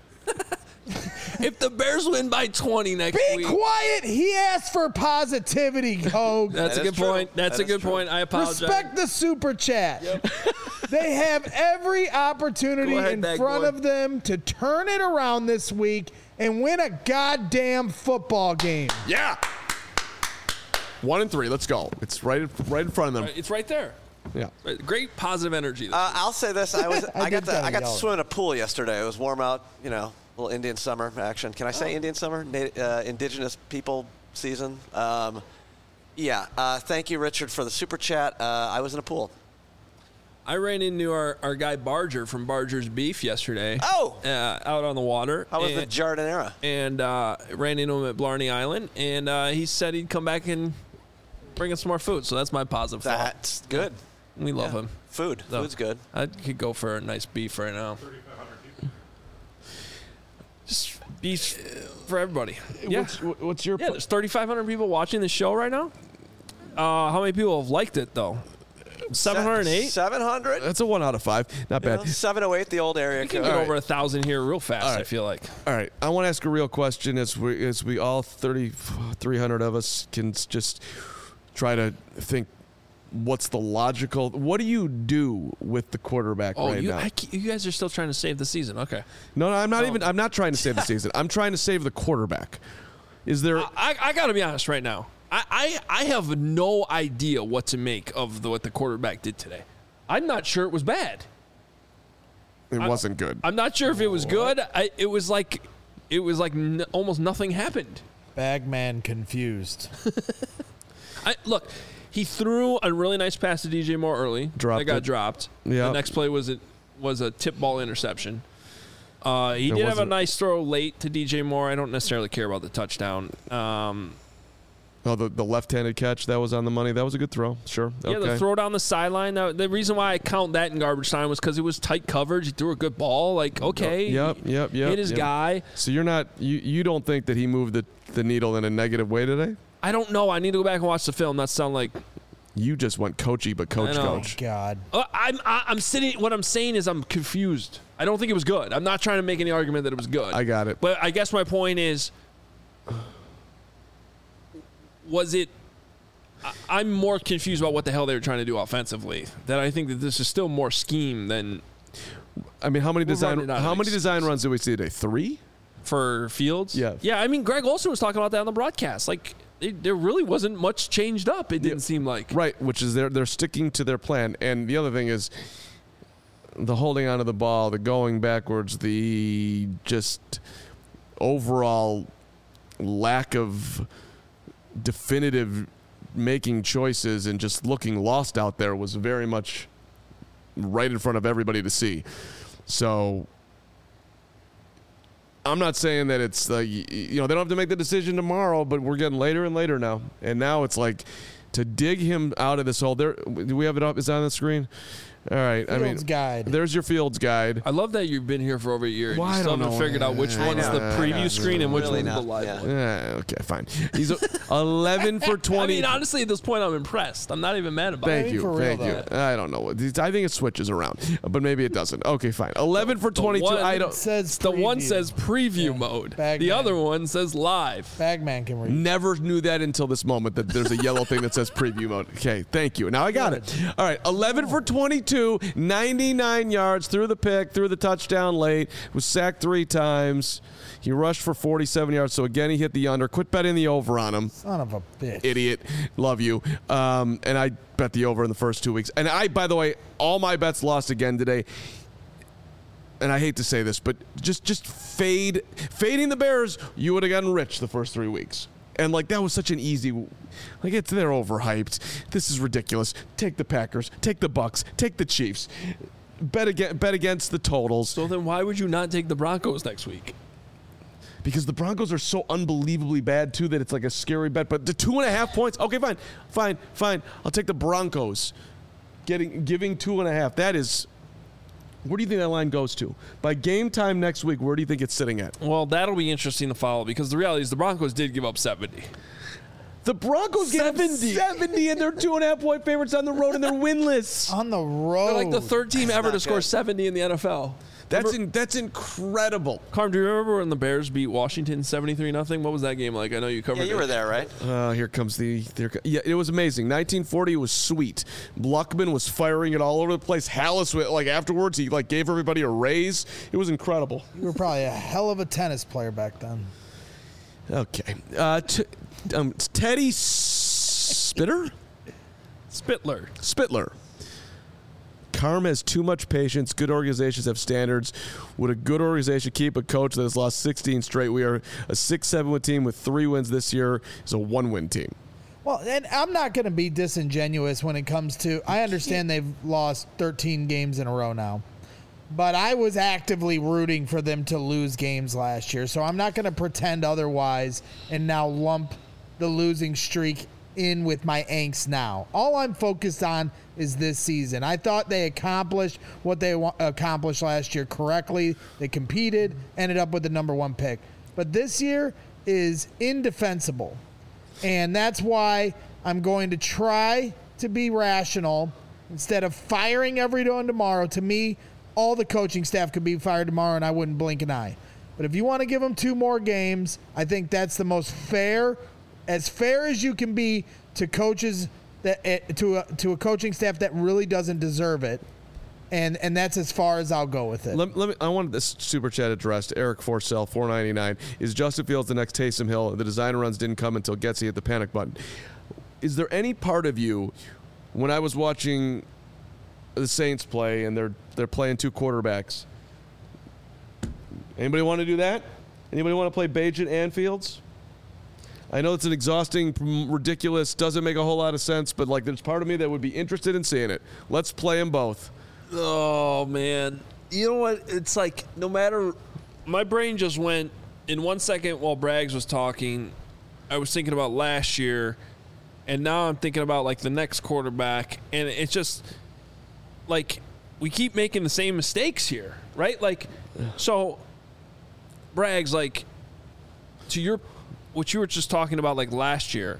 If the Bears win by 20 next Be week. quiet. He asked for positivity, Hogue. That's a good point. That's a good point. I apologize. Respect the super chat. They have every opportunity Go ahead, in bag front boy. of them to turn it around this week and win a goddamn football game. Yeah. 1-3. Let's go. It's right in front of them. It's right there. Yeah. Great positive energy. I'll say this: I got did kinda to yell. swim in a pool yesterday. It was warm out. You know, a little Indian summer action. Can I say Indian summer? Indigenous people season. Thank you, Richard, for the super chat. I was in a pool. I ran into our guy Barger from Barger's Beef yesterday. Oh! Out on the water. How was the Jardinera? And ran into him at Blarney Island, and he said he'd come back and bring us some more food. So that's my positive thought. That's good. We love him. Food. So, Food's good. I could go for a nice beef right now. 3,500 people. Just beef for everybody. Yeah. What's your There's 3,500 people watching the show right now. How many people have liked it, though? 708? 700? That's a 1 out of 5. Not bad. 708, the old area We can code. get All right. over 1,000 here real fast, All right. I feel like. All right. I want to ask a real question as we all 300 of us can just try to think what's the logical. What do you do with the quarterback right now? You guys are still trying to save the season. Okay. No, I'm not even. I'm not trying to save the season. I'm trying to save the quarterback. Is there? I got to be honest right now. I have no idea what to make of what the quarterback did today. I'm not sure it was bad. It wasn't good. I'm not sure if it was good. It was like almost nothing happened. Bagman confused. Look, he threw a really nice pass to DJ Moore early. Dropped that got it. dropped. Yeah. The next play was a tip ball interception. He did have a wasn't- nice throw late to DJ Moore. I don't necessarily care about the touchdown. The left-handed catch that was on the money. That was a good throw. Sure. Yeah, Okay. the throw down the sideline. The reason why I count that in garbage time was because it was tight coverage. He threw a good ball. Like, okay. Yep. Hit his guy. So you're not. You don't think that he moved the needle in a negative way today? I don't know. I need to go back and watch the film. That sound like You just went coachy, but I know. coach. God. I'm sitting. What I'm saying is I'm confused. I don't think it was good. I'm not trying to make any argument that it was good. I got it. But I guess my point is, was it? I'm more confused about what the hell they were trying to do offensively. That I think that this is still more scheme than I mean, how many running out of design runs did we see today? 3? for Fields. Yeah. Yeah. I mean, Greg Olsen was talking about that on the broadcast. Like, there really wasn't much changed up. It didn't seem like. Right, which is they're sticking to their plan. And the other thing is the holding onto the ball, the going backwards, the just overall lack of definitive making choices and just looking lost out there was very much right in front of everybody to see. So I'm not saying that it's they don't have to make the decision tomorrow, but we're getting later and later now. And now it's like to dig him out of this hole. There, do we have it up? Is that on the screen? All right. Fields guide. There's your Fields guide. I love that you've been here for over a year. Well, and you still haven't figured out which one's the preview screen and which Really one's the not, live yeah. one. Okay, fine. He's 11 for 20. I mean, honestly, at this point, I'm impressed. I'm not even mad about it. Thank you. for real, Thank you. I don't know. I think it switches around, but maybe it doesn't. Okay, fine. 11 for 22. one- I don't. It says The one preview. says preview Yeah. mode. Bagman. The other one says live. Bagman can read. Never knew that until this moment that there's a yellow thing that says preview mode. Okay, thank you. Now I got it. All right, 11 for 22, 99 yards, threw the pick, threw the touchdown late, was sacked 3 times. He rushed for 47 yards, so again he hit the under. Quit betting the over on him. Son of a bitch. Idiot. Love you. And I bet the over in the first 2 weeks. And I, by the way, all my bets lost again today. And I hate to say this, but just fading the Bears, you would have gotten rich the first 3 weeks. And like that was such an easy, like they're overhyped. This is ridiculous. Take the Packers, take the Bucks, take the Chiefs. Bet against the totals. So then why would you not take the Broncos next week? Because the Broncos are so unbelievably bad, too, that it's like a scary bet. But the 2.5 points, okay, fine. I'll take the Broncos. Giving 2.5. That is, where do you think that line goes to? By game time next week, where do you think it's sitting at? Well, that'll be interesting to follow because the reality is the Broncos did give up 70. The Broncos gave up 70, and they're 2.5-point favorites on the road, and they're winless. On the road. They're like the third team ever to not score good. 70 in the NFL. That's incredible. Carm, do you remember when the Bears beat Washington 73-0? What was that game like? I know you covered Yeah, you it. were there, right? Here comes yeah, it was amazing. 1940 was sweet. Luckman was firing it all over the place. Hallis, like afterwards, he like gave everybody a raise. It was incredible. You were probably a hell of a tennis player back then. Okay. Teddy Spitler? Spitler. Carm has too much patience. Good organizations have standards. Would a good organization keep a coach that has lost 16 straight? We are a 6-7 win team with 3 wins this year. Is a 1-win team. Well, and I'm not going to be disingenuous when it comes to, I understand they've lost 13 games in a row now, but I was actively rooting for them to lose games last year, so I'm not going to pretend otherwise and now lump the losing streak in with my angst now. All I'm focused on is this season. I thought they accomplished what they accomplished last year correctly. They competed, ended up with the number 1 pick. But this year is indefensible. And that's why I'm going to try to be rational instead of firing everyone tomorrow. To me, all the coaching staff could be fired tomorrow and I wouldn't blink an eye. But if you want to give them 2 more games, I think that's the most fair as you can be to coaches that to a coaching staff that really doesn't deserve it. And that's as far as I'll go with it. I wanted this super chat addressed. Eric Forcell, $4.99. Is Justin Fields the next Taysom Hill? The designer runs didn't come until Getsy hit the panic button. Is there any part of you, when I was watching the Saints play and they're playing 2 quarterbacks, anybody want to do that? Anybody want to play Bagent and Fields? I know it's an exhausting, ridiculous, doesn't make a whole lot of sense, but like there's part of me that would be interested in seeing it. Let's play them both. Oh, man. You know what? It's like no matter – my brain just went in 1 second while Braggs was talking. I was thinking about last year, and now I'm thinking about like the next quarterback, and it's just like we keep making the same mistakes here, right? Like, so Braggs, like to your – what you were just talking about like last year,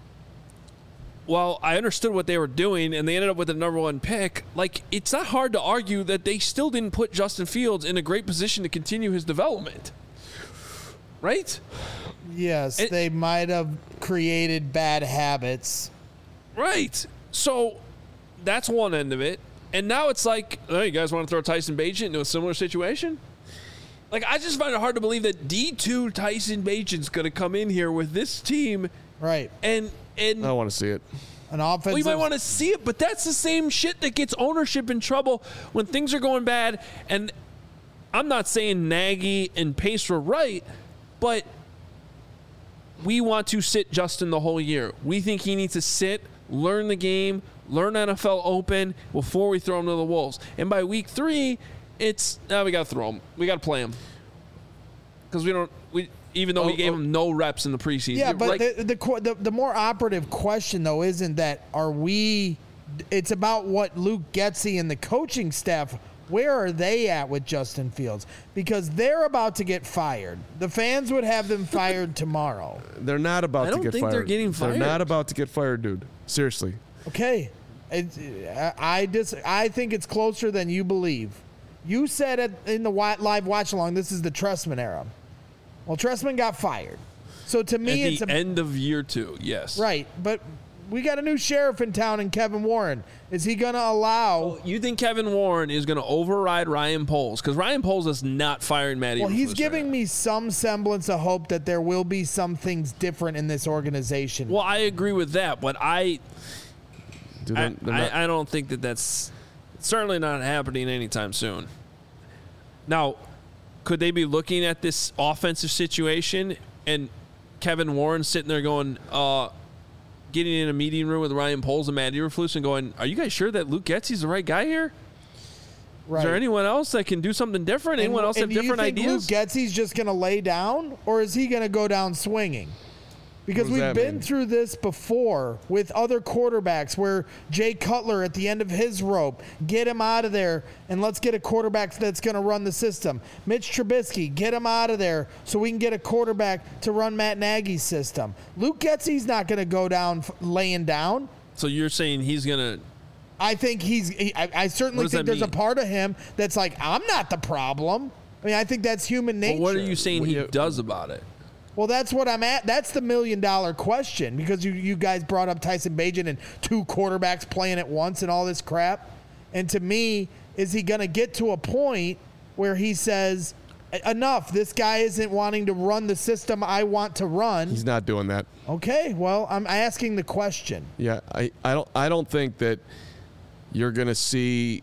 well, I understood what they were doing and they ended up with the number 1 pick. Like, it's not hard to argue that they still didn't put Justin Fields in a great position to continue his development. Right? Yes, they might have created bad habits. Right. So that's one end of it. And now it's like, oh, you guys want to throw Tyson Bagent into a similar situation? Like, I just find it hard to believe that D2 Tyson Bagent's going to come in here with this team. Right. And I want to see it. An offensive. well, you might want to see it, but that's the same shit that gets ownership in trouble when things are going bad. And I'm not saying Nagy and Pace were right, but we want to sit Justin the whole year. We think he needs to sit, learn the game, learn NFL Open before we throw him to the Wolves. And by week 3, it's we got to throw him. We got to play him because we even though we gave him no reps in the preseason. Yeah, but like, the more operative question, though, isn't that it's about what Luke Getsy and the coaching staff, where are they at with Justin Fields? Because they're about to get fired. The fans would have them fired tomorrow. They're not about to get fired. I don't think they're getting fired. They're not about to get fired, dude. Seriously. Okay. I think it's closer than you believe. You said in the live watch-along, this is the Trestman era. Well, Trestman got fired. So to me, it's the end of year 2, yes. Right, but we got a new sheriff in town in Kevin Warren. Is he going to allow... You think Kevin Warren is going to override Ryan Poles? Because Ryan Poles is not firing Matt Eberflus. Well, he's giving me some semblance of hope that there will be some things different in this organization. Well, I agree with that, but I don't think that's certainly not happening anytime soon. Now, could they be looking at this offensive situation and Kevin Warren sitting there going, getting in a meeting room with Ryan Poles and Matt Eberflus and going, are you guys sure that Luke Getsy's the right guy here? Right. Is there anyone else that can do something different? Anyone else have different ideas? Do you think Luke Getsy's just going to lay down, or is he going to go down swinging? Because we've been through this before with other quarterbacks where Jay Cutler at the end of his rope, get him out of there and let's get a quarterback that's going to run the system. Mitch Trubisky, get him out of there so we can get a quarterback to run Matt Nagy's system. Luke Getsy's not going to go down laying down. So you're saying he's going to... I think I certainly think there's a part of him that's like, I'm not the problem. I mean, I think that's human nature. Well, what are you saying he does about it? Well, that's what I'm at. That's the $1 million question, because you guys brought up Tyson Bagent and 2 quarterbacks playing at once and all this crap. And to me, is he going to get to a point where he says, enough, this guy isn't wanting to run the system I want to run? He's not doing that. Okay, well, I'm asking the question. Yeah, I don't think that you're going to see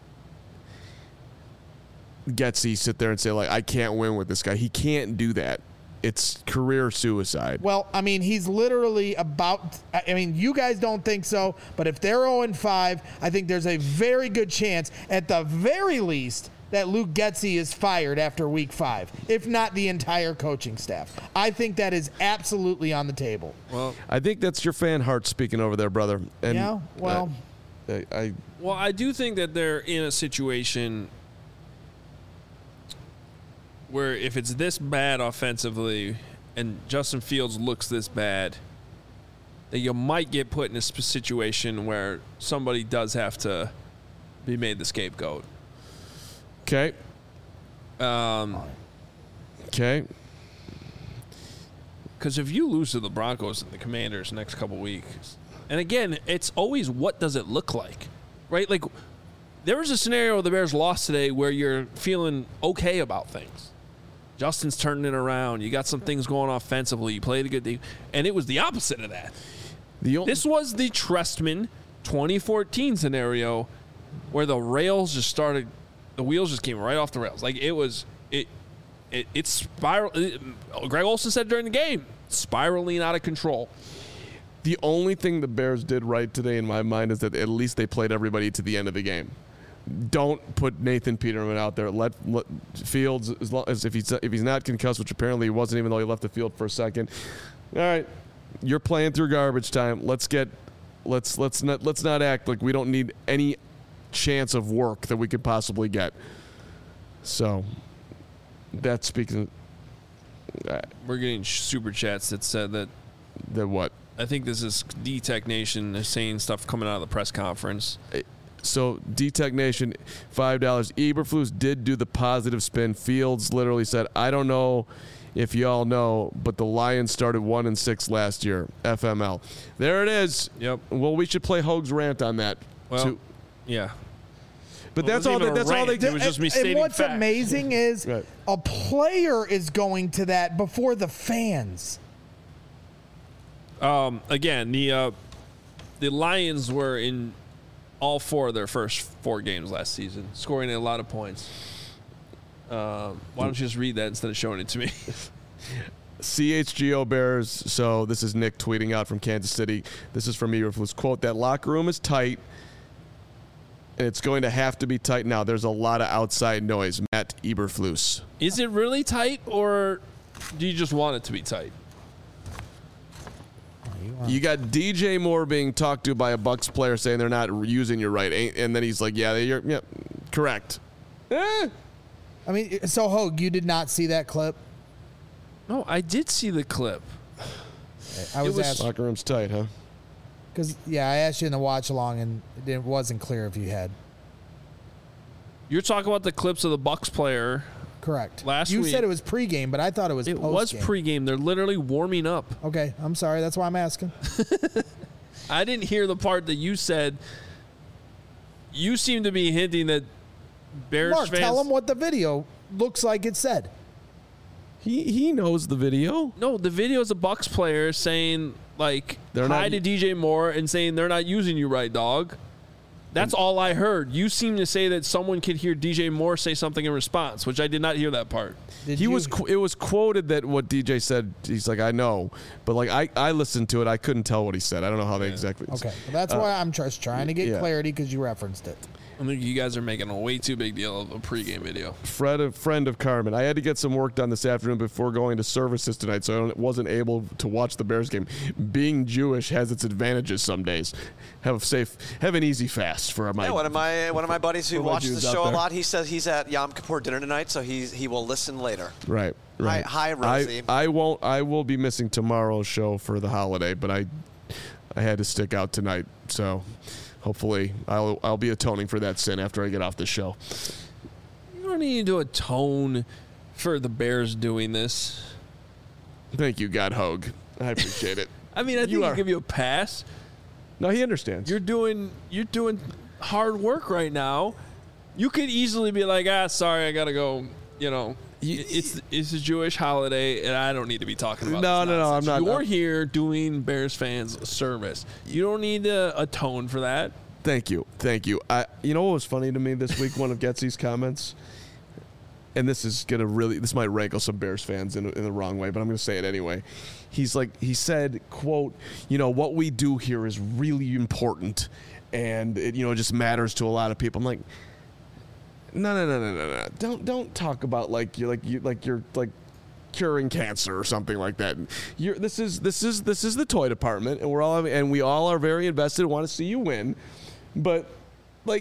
Getsy sit there and say, like, I can't win with this guy. He can't do that. It's career suicide. Well, I mean, he's literally about... I mean, you guys don't think so, but if they're 0-5, I think there's a very good chance, at the very least, that Luke Getsy is fired after week 5, if not the entire coaching staff. I think that is absolutely on the table. Well, I think that's your fan heart speaking over there, brother. And yeah, well... I do think that they're in a situation where if it's this bad offensively and Justin Fields looks this bad, that you might get put in a situation where somebody does have to be made the scapegoat. Okay. Okay. Because if you lose to the Broncos and the Commanders next couple weeks, and again, it's always what does it look like, right? Like, there was a scenario where the Bears lost today where you're feeling okay about things. Justin's turning it around. You got some things going offensively. You played a good game. And it was the opposite of that. This was the Trestman 2014 scenario where the wheels just came right off the rails. Like, it spiraled. Greg Olsen said during the game, spiraling out of control. The only thing the Bears did right today in my mind is that at least they played everybody to the end of the game. Don't put Nathan Peterman out there. Let Fields, as long as if he's not concussed, which apparently he wasn't, even though he left the field for a second. All right, you're playing through garbage time. Let's not act like we don't need any chance of work that we could possibly get. So that speaks. We're getting super chats that said that what? I think this is D-Tech Nation. They're saying stuff coming out of the press conference. So, D-Tech Nation, $5. Eberflus did do the positive spin. Fields literally said, I don't know if y'all know, but the Lions started 1-6 last year. FML. There it is. Yep. Well, we should play Hoag's rant on that. Well, yeah. But that's all they did. It was just me stating and what's facts. amazing is a player is going to that before the fans. Again, the Lions were in all 4 of their first 4 games last season, scoring a lot of points. Why don't you just read that instead of showing it to me? CHGO Bears. So this is Nick tweeting out from Kansas City. This is from Eberflus. Quote, that locker room is tight, and it's going to have to be tight now. There's a lot of outside noise. Matt Eberflus. Is it really tight, or do you just want it to be tight? You got DJ Moore being talked to by a Bucks player saying they're not using you right, and then he's like, "Yeah, correct." I mean, so Hogue, you did not see that clip? No, I did see the clip. I was asking Locker room's tight, huh? because I asked you in the watch along, and it wasn't clear if you had. You're talking about the clips of the Bucks player. Correct. Last you week. said it was pregame, but I thought it was It postgame. was pregame. They're literally warming up. Okay, I'm sorry. That's why I'm asking. I didn't hear the part that you said. You seem to be hinting that Bears Mark, fans. tell him what the video looks like it said. He knows the video. No, the video is a Bucks player saying like They're hi not- to DJ Moore and saying they're not using you right, dog. That's all I heard. You seem to say that someone could hear DJ Moore say something in response, which I did not hear that part. It was quoted that what DJ said. He's like, I know, but like I listened to it. I couldn't tell what he said. I don't know how they exactly. Okay, well, that's why I'm just trying to get yeah. clarity because you referenced it. I think you guys are making a way too big deal of a pregame video. Fred, a friend of Carmen. I had to get some work done this afternoon before going to services tonight, so I wasn't able to watch the Bears game. Being Jewish has its advantages some days. Have an easy fast for my. Yeah, one of my buddies who For my watches the Jews out show a there. lot, he says he's at Yom Kippur dinner tonight, so he will listen later. Right. Hi, Rosie. I won't. I will be missing tomorrow's show for the holiday, but I had to stick out tonight, so hopefully I'll be atoning for that sin after I get off the show. You don't need to atone for the Bears doing this. Thank you, God Hogue. I appreciate it. I mean, I think I'll give you a pass. No, he understands. You're doing hard work right now. You could easily be like, sorry, I gotta go. You know, it's a Jewish holiday, and I don't need to be talking about. No, I'm not. You're here doing Bears fans a service. You don't need to atone for that. Thank you. You know what was funny to me this week? One of Getsy's comments, and this might rankle some Bears fans in the wrong way, but I'm going to say it anyway. He said, quote, what we do here is really important, and it just matters to a lot of people. I'm like, no. Don't talk about like you're curing cancer or something like that. This is the toy department, and we all are very invested and want to see you win. But like,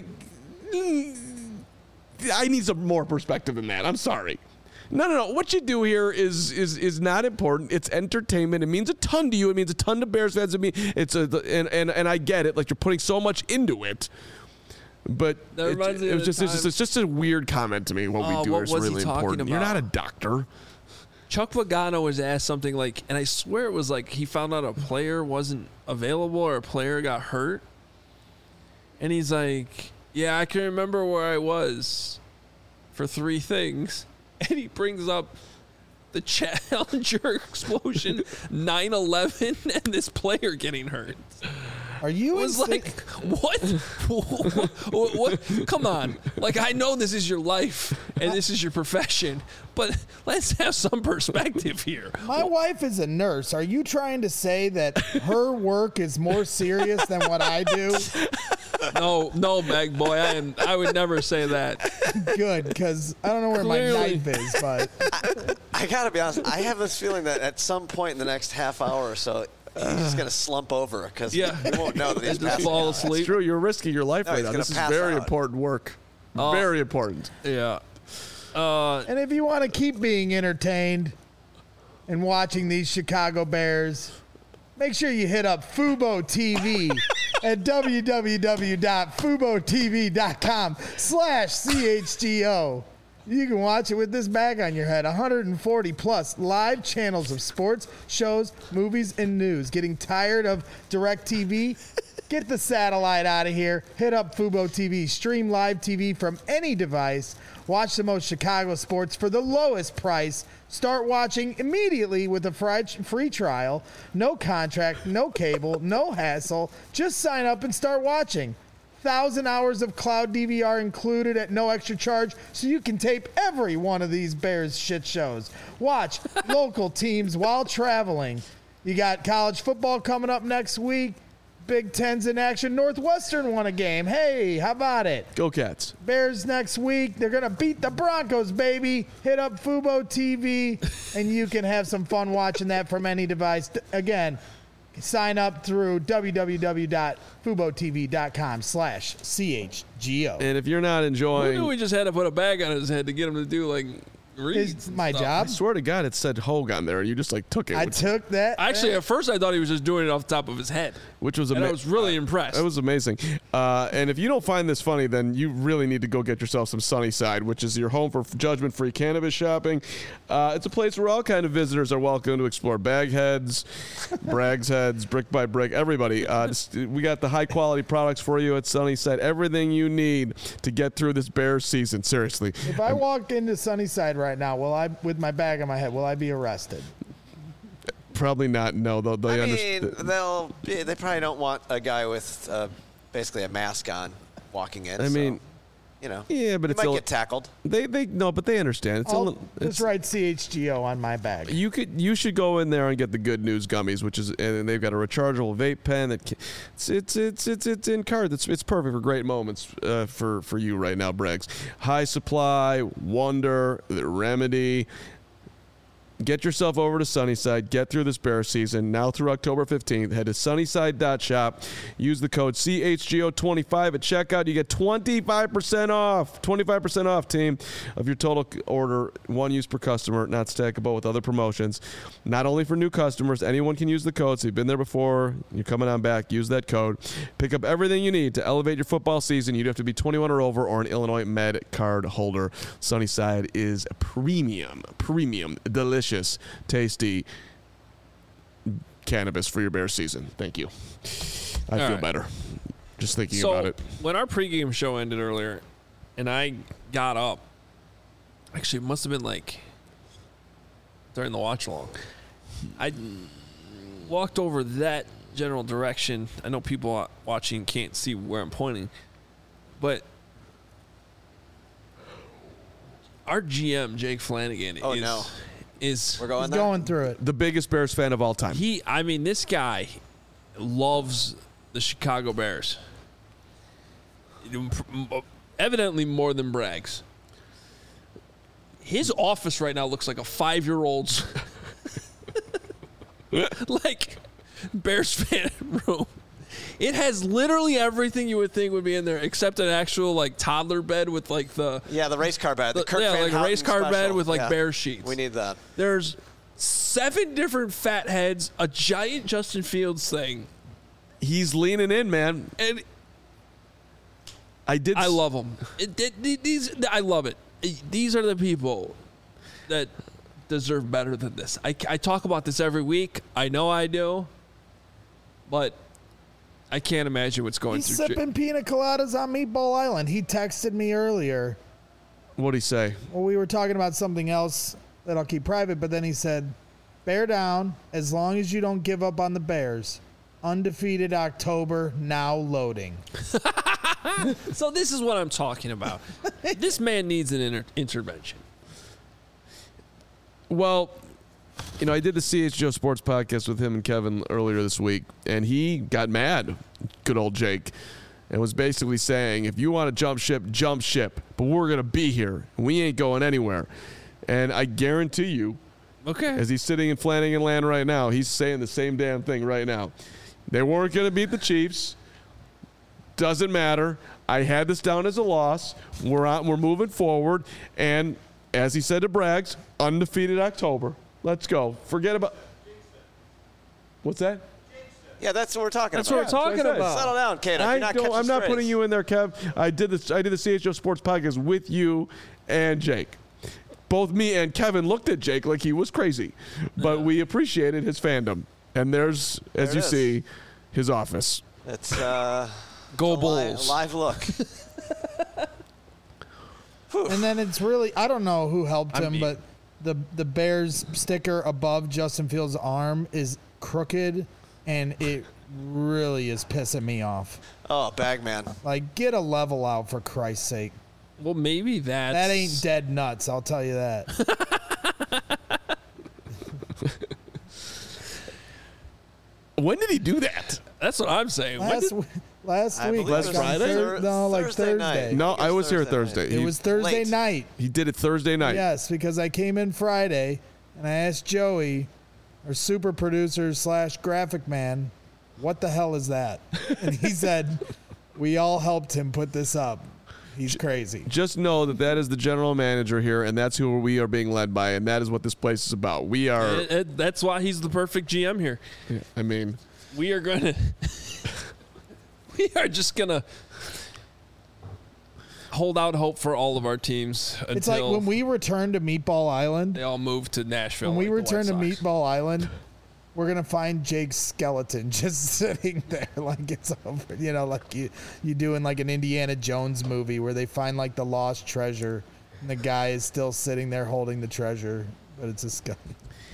I need some more perspective than that. I'm sorry. No. What you do here is not important. It's entertainment. It means a ton to you. It means a ton to Bears fans. And I get it. Like, you're putting so much into it. But it's just a weird comment to me. What we do what is was he really talking important. You're about? not a doctor. Chuck Pagano was asked something like, and I swear it was like he found out a player wasn't available or a player got hurt. And he's like, yeah, I can remember where I was for 3 things. And he brings up the Challenger explosion, 9/11, and this player getting hurt. Are you? It was like, what? What? Come on. Like, I know this is your life and this is your profession, but let's have some perspective here. My wife is a nurse. Are you trying to say that her work is more serious than what I do? No, Meg boy, I would never say that. Good, because I don't know where my knife is, but I gotta be honest. I have this feeling that at some point in the next half hour or so, he's just gonna slump over because he won't know that he's Just passing fall out. asleep. It's true. You're risking your life No, right he's now. gonna This is pass very out. important work. Very important. Yeah. and if you want to keep being entertained and watching these Chicago Bears, make sure you hit up Fubo TV at www.FuboTV.com/CHGO. You can watch it with this bag on your head. 140 plus live channels of sports, shows, movies, and news. Getting tired of DirecTV? Get the satellite out of here. Hit up Fubo TV. Stream live TV from any device. Watch the most Chicago sports for the lowest price. Start watching immediately with a free trial. No contract, no cable, no hassle. Just sign up and start watching. 1,000 hours of cloud DVR included at no extra charge, so you can tape every one of these Bears shit shows. Watch local teams while traveling. You got college football coming up next week. Big Ten's in action. Northwestern won a game. Hey, how about it? Go Cats. Bears next week. They're going to beat the Broncos, baby. Hit up Fubo TV, and you can have some fun watching that from any device. Again, sign up through www.fubotv.com/CHGO. And if you're not Who enjoying, knew we just had to put a bag on his head to get him to do like reads? It's and my stuff? job. I swear to God, it said Hogue on there, and you just like took it. I took that. Actually, at first I thought he was just doing it off the top of his head, which was and I amazing. was really impressed. That was amazing. And if you don't find this funny, then you really need to go get yourself some Sunnyside, which is your home for judgment-free cannabis shopping. It's a place where all kind of visitors are welcome to explore Bagheads, Bragg's Heads, Brick by Brick, everybody. We got the high-quality products for you at Sunnyside. Everything you need to get through this Bears season. Seriously. If I walk into Sunnyside right now, with my bag on my head, will I be arrested? Probably not. No, they I understand. mean, they probably don't want a guy with basically a mask on walking in. I mean, you know, yeah, but you it's might get tackled. They no, but they understand. It's a I'll little. just write CHGO on my bag. You should go in there and get the Good News gummies, which is, and they've got a rechargeable vape pen that it's in card. It's perfect for great moments for you right now, Braggs. High Supply, Wonder, the Remedy. Get yourself over to Sunnyside. Get through this bear season. Now through October 15th, head to sunnyside.shop. Use the code CHGO25 at checkout. You get 25% off. 25% off, team, of your total order. One use per customer, not stackable with other promotions. Not only for new customers, anyone can use the code. So you've been there before, you're coming on back, use that code. Pick up everything you need to elevate your football season. You'd have to be 21 or over or an Illinois Med card holder. Sunnyside is premium, delicious, tasty cannabis for your bear season. Thank you. I feel better just thinking about it. When our pregame show ended earlier and I got up, actually it must have been like during the watch along, I walked over that general direction. I know people watching can't see where I'm pointing, but our GM, Jake Flanagan, we're going He's there? going through it. The biggest Bears fan of all time. This guy loves the Chicago Bears. Evidently more than Braggs. His office right now looks like a 5-year-old's like Bears fan room. It has literally everything you would think would be in there, except an actual like toddler bed with like the race car bed. The Kirk Van like a race Houten car bed special. with like bear sheets. We need that. There's 7 different fat heads, a giant Justin Fields thing. He's leaning in, man. And I love him. I love it. These are the people that deserve better than this. I talk about this every week. I know I do, but I can't imagine what's going He's through. sipping pina coladas on Meatball Island. He texted me earlier. What'd he say? Well, we were talking about something else that I'll keep private, but then he said, bear down as long as you don't give up on the Bears. Undefeated October, now loading. So this is what I'm talking about. This man needs an intervention. Well, I did the CHGO Sports podcast with him and Kevin earlier this week, and he got mad, good old Jake, and was basically saying, if you want to jump ship, but we're going to be here. We ain't going anywhere. And I guarantee you, as he's sitting in Flanagan land right now, he's saying the same damn thing right now. They weren't going to beat the Chiefs. Doesn't matter. I had this down as a loss. We're moving forward. And as he said to Braggs, undefeated October. Let's go. Forget about. What's that? Yeah, that's what we're talking That's about. what we're talking about. Settle down, Kato. You're not catching I'm not strays. putting you in there, Kev. I did the CHGO Sports podcast with you and Jake. Both me and Kevin looked at Jake like he was crazy, but we appreciated his fandom. And there's, as you see, his office. It's Go a Bulls. live look. And then it's really, I don't know who helped him, but the Bears sticker above Justin Fields' arm is crooked, and it really is pissing me off. Oh, Bagman. Like, get a level out for Christ's sake. Well, maybe that ain't dead nuts, I'll tell you that. When did he do that? That's what I'm saying. Last week. Last Friday? Thursday night. No, I was here Thursday Thursday. It was Thursday Late. night. He did it Thursday night. Yes, because I came in Friday and I asked Joey, our super producer / graphic man, what the hell is that? And he said, we all helped him put this up. He's crazy. Just know that is the general manager here, and that's who we are being led by, and that is what this place is about. We are. That's why he's the perfect GM here. Yeah, I mean, We are going to. We are just going to hold out hope for all of our teams until It's like when we return to Meatball Island. they all move to Nashville. When we like the return to White Sox. Meatball Island, we're gonna find Jake's skeleton just sitting there, like it's over. You know, like you do in like an Indiana Jones movie where they find like the lost treasure, and the guy is still sitting there holding the treasure, but it's a skeleton.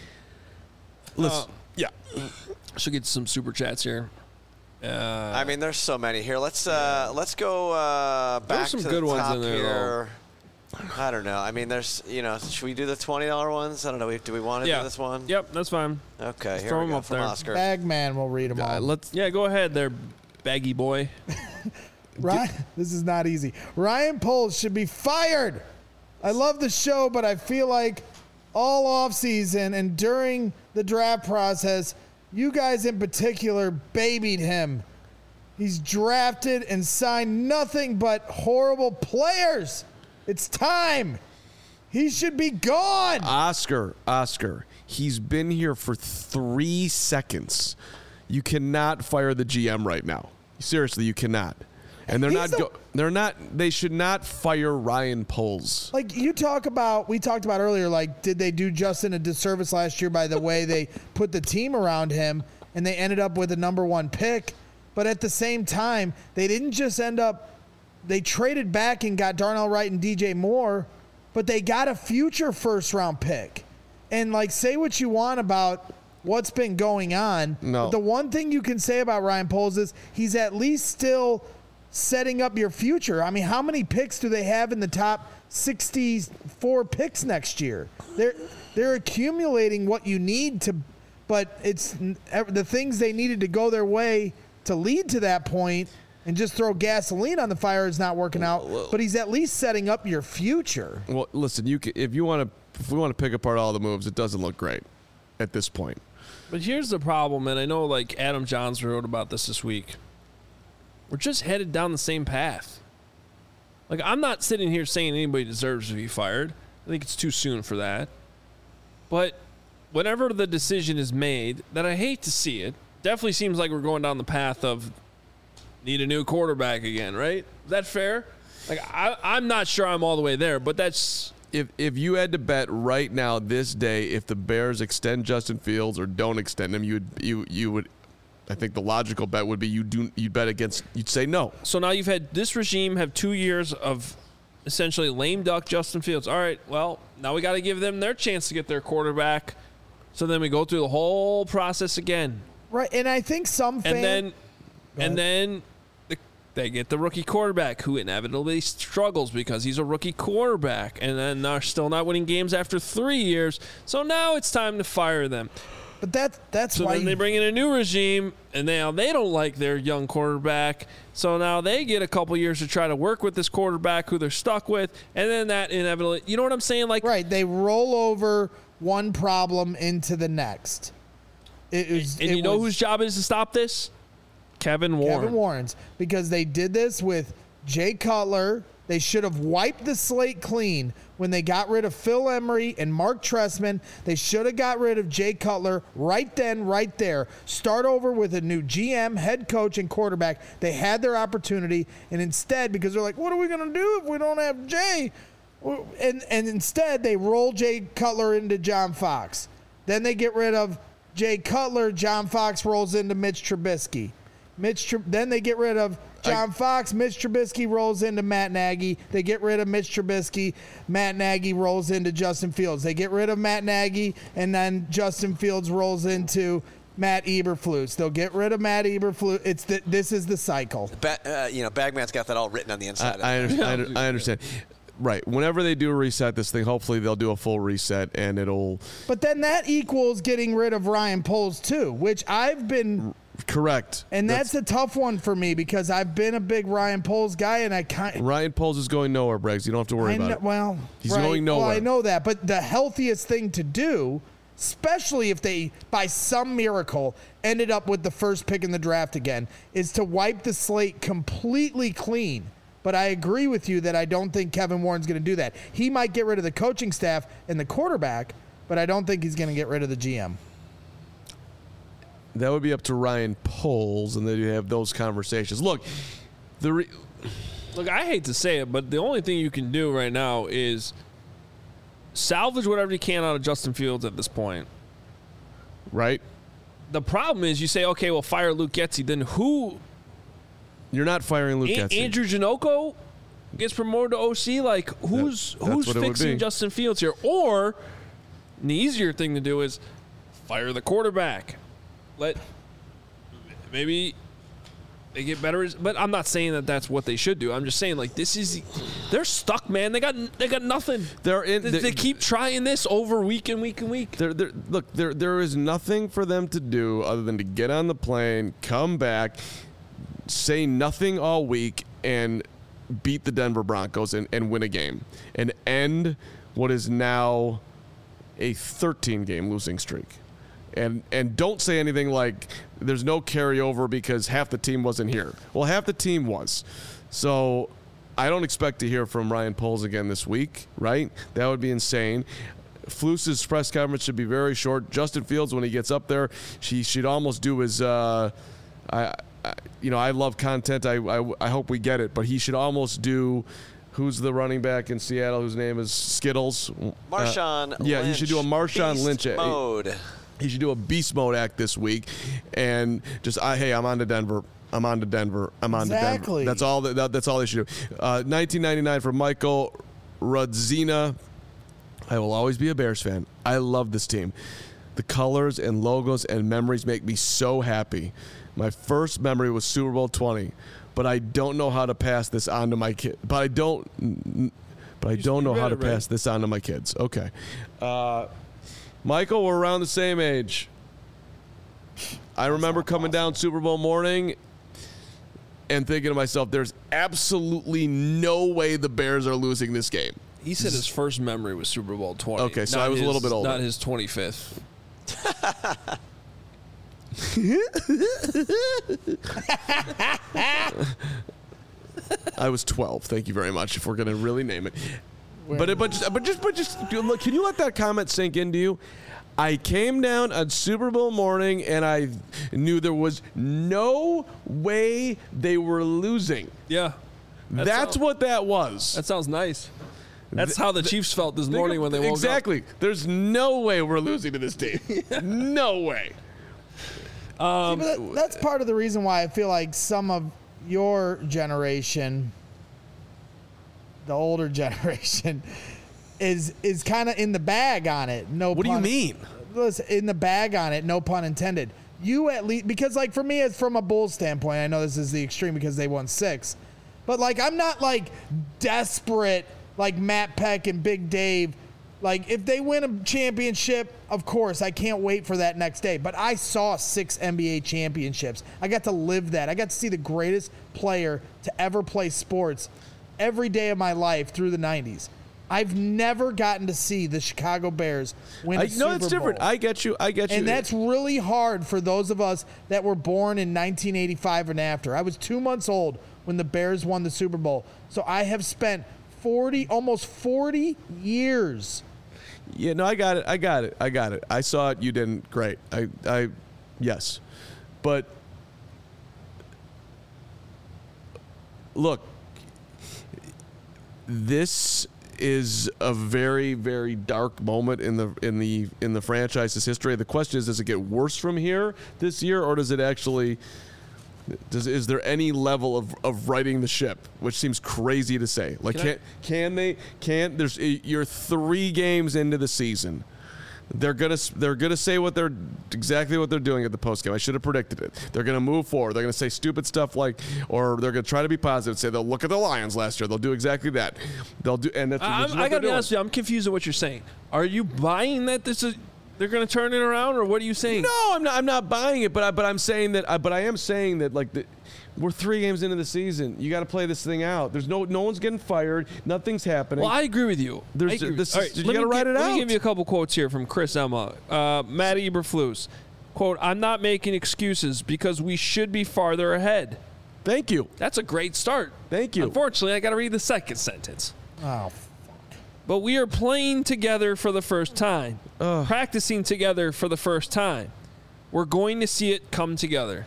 listen. Yeah. Should get some super chats here. I mean, there's so many here. Let's go back some to good the ones top in there, here. I don't know. I mean, there's, should we do the $20 ones? I don't know. Do we want to do this one? Yep, that's fine. Okay, here throw we 'em go up from there. Oscar. Bagman will read them all. Yeah, go ahead there, baggy boy. Ryan, this is not easy. Ryan Poles should be fired. I love the show, but I feel like all offseason and during the draft process, you guys in particular babied him. He's drafted and signed nothing but horrible players. It's time. He should be gone. Oscar, he's been here for 3 seconds. You cannot fire the GM right now. Seriously, you cannot. And they should not fire Ryan Poles. Like we talked about earlier, like, did they do Justin a disservice last year by the way they put the team around him and they ended up with a number 1 pick? But at the same time, they didn't just they traded back and got Darnell Wright and DJ Moore, but they got a future first-round pick. And, like, say what you want about what's been going on. No. But the one thing you can say about Ryan Poles is he's at least still setting up your future. I mean, how many picks do they have in the top 64 picks next year? They're accumulating what you need to, but it's the things they needed to go their way to lead to that point, and just throw gasoline on the fire is not working out. But he's at least setting up your future. Well, listen, if we want to pick apart all the moves, it doesn't look great at this point. But here's the problem, and I know like Adam Johns wrote about this week. We're just headed down the same path. Like, I'm not sitting here saying anybody deserves to be fired. I think it's too soon for that. But whenever the decision is made, that I hate to see it, definitely seems like we're going down the path of need a new quarterback again, right? Is that fair? Like, I'm not sure I'm all the way there, but that's... If you had to bet right now, this day, if the Bears extend Justin Fields or don't extend him, you would. I think the logical bet would be you'd bet against. You'd say no. So now you've had this regime have 2 years of essentially lame duck Justin Fields. All right, well, now we got to give them their chance to get their quarterback. So then we go through the whole process again. Right, and I think some fans... And then they get the rookie quarterback who inevitably struggles because he's a rookie quarterback. And then they're still not winning games after 3 years. So now it's time to fire them. But that's so why then they bring in a new regime, and now they don't like their young quarterback. So now they get a couple years to try to work with this quarterback who they're stuck with, and then that inevitably, you know what I'm saying? Like, right, they roll over one problem into the next. You know whose job it is to stop this? Kevin Warren. Kevin Warren's, because they did this with Jay Cutler. They should have wiped the slate clean when they got rid of Phil Emery and Mark Trestman. They should have got rid of Jay Cutler right then, right there. Start over with a new GM, head coach, and quarterback. They had their opportunity, and instead, because they're like, what are we going to do if we don't have Jay? And instead, they roll Jay Cutler into John Fox. Then they get rid of Jay Cutler. John Fox rolls into Mitch Trubisky. Then they get rid of John Fox. Mitch Trubisky rolls into Matt Nagy. They get rid of Mitch Trubisky. Matt Nagy rolls into Justin Fields. They get rid of Matt Nagy, and then Justin Fields rolls into Matt Eberflus. They'll get rid of Matt Eberflus. This is the cycle. Bagman's got that all written on the inside. I understand. Right. Whenever they do reset this thing, hopefully they'll do a full reset, and it'll... But then that equals getting rid of Ryan Poles, too, which I've been Correct. And that's a tough one for me because I've been a big Ryan Poles guy, and Ryan Poles is going nowhere, Briggs. You don't have to worry about it. Well, he's going nowhere. Well, I know that, but the healthiest thing to do, especially if they, by some miracle, ended up with the first pick in the draft again, is to wipe the slate completely clean. But I agree with you that I don't think Kevin Warren's going to do that. He might get rid of the coaching staff and the quarterback, but I don't think he's going to get rid of the GM. That would be up to Ryan Poles, and then you have those conversations. Look, Look, I hate to say it, but the only thing you can do right now is salvage whatever you can out of Justin Fields at this point. Right? The problem is you say, okay, well, fire Luke Getsy. Then who? You're not firing Luke Getsy. Andrew Janocko gets promoted to OC. Like, who's fixing Justin Fields here? Or the easier thing to do is fire the quarterback. Maybe they get better. But I'm not saying that that's what they should do. I'm just saying, like, they're stuck, man. They got nothing. They keep trying this over week and week and week. There is nothing for them to do other than to get on the plane, come back, say nothing all week, and beat the Denver Broncos and win a game and end what is now a 13-game losing streak. And don't say anything like there's no carryover because half the team wasn't here. Well, half the team was. So I don't expect to hear from Ryan Poles again this week, right? That would be insane. Fluce's press conference should be very short. Justin Fields, when he gets up there, she should almost do his I love content. I hope we get it, but he should almost do. Who's the running back in Seattle whose name is Skittles? Marshawn Lynch. Yeah, he should do a Marshawn Lynch mode. He should do a beast mode act this week, and just I'm on to Denver. I'm on to Denver. Exactly. That's all. That's all they should do. 1999 for Michael Rudzina. I will always be a Bears fan. I love this team. The colors and logos and memories make me so happy. My first memory was Super Bowl 20, but I don't know how to pass this on to my kid. But I don't know how to pass this on to my kids. Okay. Michael, we're around the same age. I remember coming down Super Bowl morning and thinking to myself, there's absolutely no way the Bears are losing this game. He said his first memory was Super Bowl 20. Okay, so I was a little bit older. Not his 25th. I was 12. Thank you very much. If we're gonna really name it, but just look. Can you let that comment sink into you? I came down on Super Bowl morning and I knew there was no way they were losing. Yeah, that's what that was. That sounds nice. That's how the Chiefs felt this morning when they woke up. Exactly. There's no way we're losing to this team. No way. That's part of the reason why I feel like some of your generation, the older generation, is kind of in the bag on it. What do you mean? Listen, in the bag on it, no pun intended. You at least, because like for me, it's from a Bulls standpoint. I know this is the extreme because they won 6, but like I'm not like desperate like Matt Peck and Big Dave. Like, if they win a championship, of course, I can't wait for that next day. But I saw 6 NBA championships. I got to live that. I got to see the greatest player to ever play sports every day of my life through the 90s. I've never gotten to see the Chicago Bears win a Super Bowl. No, it's different. I get you. And that's really hard for those of us that were born in 1985 and after. I was 2 months old when the Bears won the Super Bowl. So I have spent almost 40 years. Yeah, no, I got it. I saw it. You didn't. Great. Yes. But look, this is a very, very dark moment in the franchise's history. The question is, does it get worse from here this year, or does it actually? Is there any level of righting the ship, which seems crazy to say? Like, you're 3 games into the season. They're gonna say exactly what they're doing at the postgame. I should have predicted it. They're gonna move forward. They're gonna say stupid stuff or they're gonna try to be positive. Say they'll look at the Lions last year. They'll do exactly that. They'll do, and that's. I gotta be honest with you. I'm confused at what you're saying. Are you buying that this is they're going to turn it around, or what are you saying? No, I'm not buying it, but I'm saying that. But I am saying that we're 3 games into the season. You got to play this thing out. There's no one's getting fired. Nothing's happening. Well, I agree with you. You got to write it out. Let me give you a couple quotes here from Chris Emma. Matt Eberflus, quote, "I'm not making excuses because we should be farther ahead." Thank you. That's a great start. Thank you. Unfortunately, I got to read the second sentence. Oh, But we are playing together for the first time, practicing together for the first time. We're going to see it come together.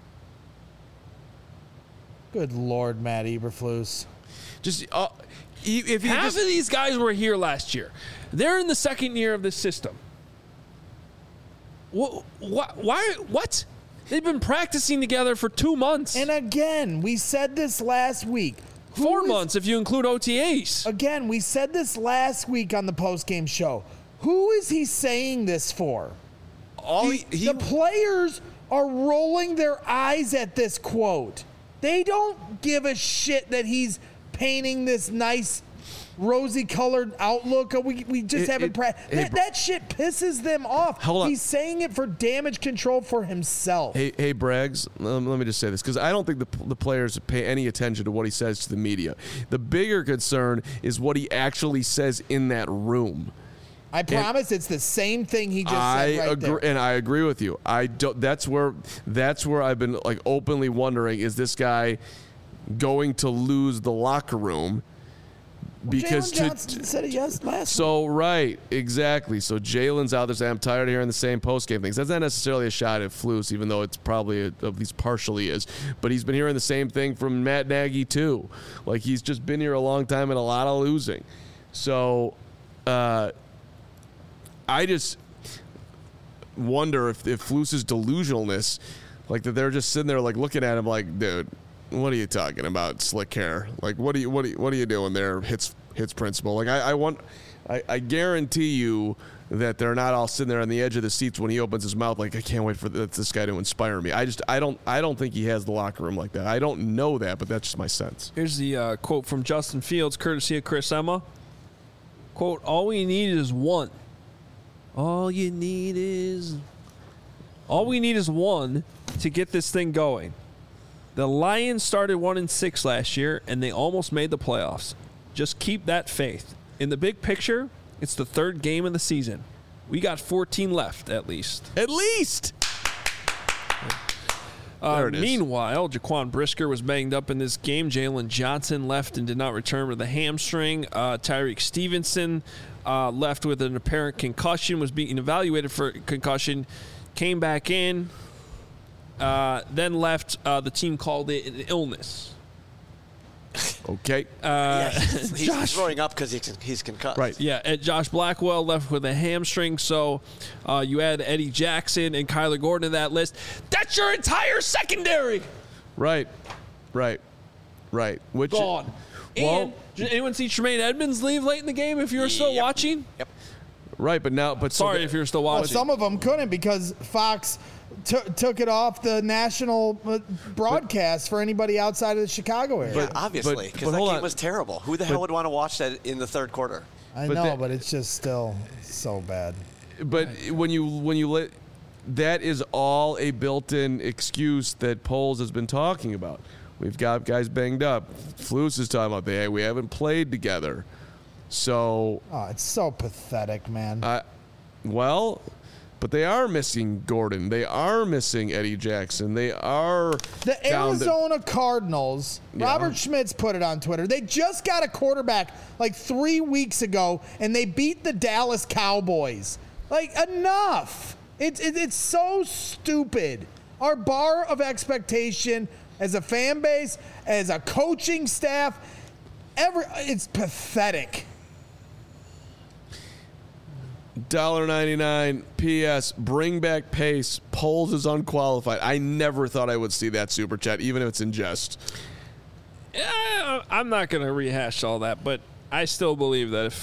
good Lord, Matt Eberflus. Just if you Half of these guys were here last year. They're in the second year of this system. What? They've been practicing together for 2 months. And again, we said this last week. 4 months if you include OTAs. Again, we said this last week on the postgame show. Who is he saying this for? The players are rolling their eyes at this quote. They don't give a shit that he's painting this nice rosy-colored outlook. We just haven't practiced. That shit pisses them off. Hold on. He's saying it for damage control for himself. Hey, Braggs, let me just say this, because I don't think the players pay any attention to what he says to the media. The bigger concern is what he actually says in that room. I promise it's the same thing he just said right there. And I agree with you. That's where I've been like openly wondering, is this guy going to lose the locker room? Because Jalen Johnson said it last week. So right, exactly. So Jalen's out there saying, I'm tired of hearing the same post-game things. That's not necessarily a shot at Flus, even though it's probably at least partially is. But he's been hearing the same thing from Matt Nagy too. Like he's just been here a long time and a lot of losing. So I just wonder if Flus's delusionalness, like that they're just sitting there like looking at him like, dude, what are you talking about, slick hair? Like what are you doing there, hits principle? Like I guarantee you that they're not all sitting there on the edge of the seats when he opens his mouth like, I can't wait for this guy to inspire me. I don't think he has the locker room like that. I don't know that, but that's just my sense. Here's the quote from Justin Fields, courtesy of Chris Emma. Quote, all we need is one. All we need is one to get this thing going. The Lions started 1-6 last year, and they almost made the playoffs. Just keep that faith. In the big picture, it's the third game of the season. We got 14 left, at least. At least! There it is. Meanwhile, Jaquan Brisker was banged up in this game. Jalen Johnson left and did not return with a hamstring. Tyreek Stevenson left with an apparent concussion, was being evaluated for concussion, came back in, then left. The team called it an illness. Okay. He's throwing up because he's concussed. Right. Yeah, and Josh Blackwell left with a hamstring, so you add Eddie Jackson and Kyler Gordon to that list. That's your entire secondary. Right. Which Gone. Well, and did anyone see Tremaine Edmonds leave late in the game if you were still watching? Yep. right, but Sorry if you're still Well, watching. some of them couldn't because Fox took it off the national broadcast for anybody outside of the Chicago area. Yeah, obviously, but because that hold game on. was terrible. Who the hell would want to watch that in the third quarter? I but know, that- but it's just still so bad. But when you let, that is all a built-in excuse that Poles has been talking about. We've got guys banged up. Flus is talking about we haven't played together. So Oh, it's so pathetic, man. but they are missing Gordon. They are missing Eddie Jackson. They are The down to- Arizona Cardinals, Yeah. Robert Schmitz put it on Twitter. They just got a quarterback like 3 weeks ago, and they beat the Dallas Cowboys. Like, enough. It's so stupid. Our bar of expectation as a fan base, as a coaching staff, it's pathetic. $1.99. P.S. Bring back Pace. Poles is unqualified. I never thought I would see that super chat, even if it's in jest. Yeah, I'm not going to rehash all that, but I still believe that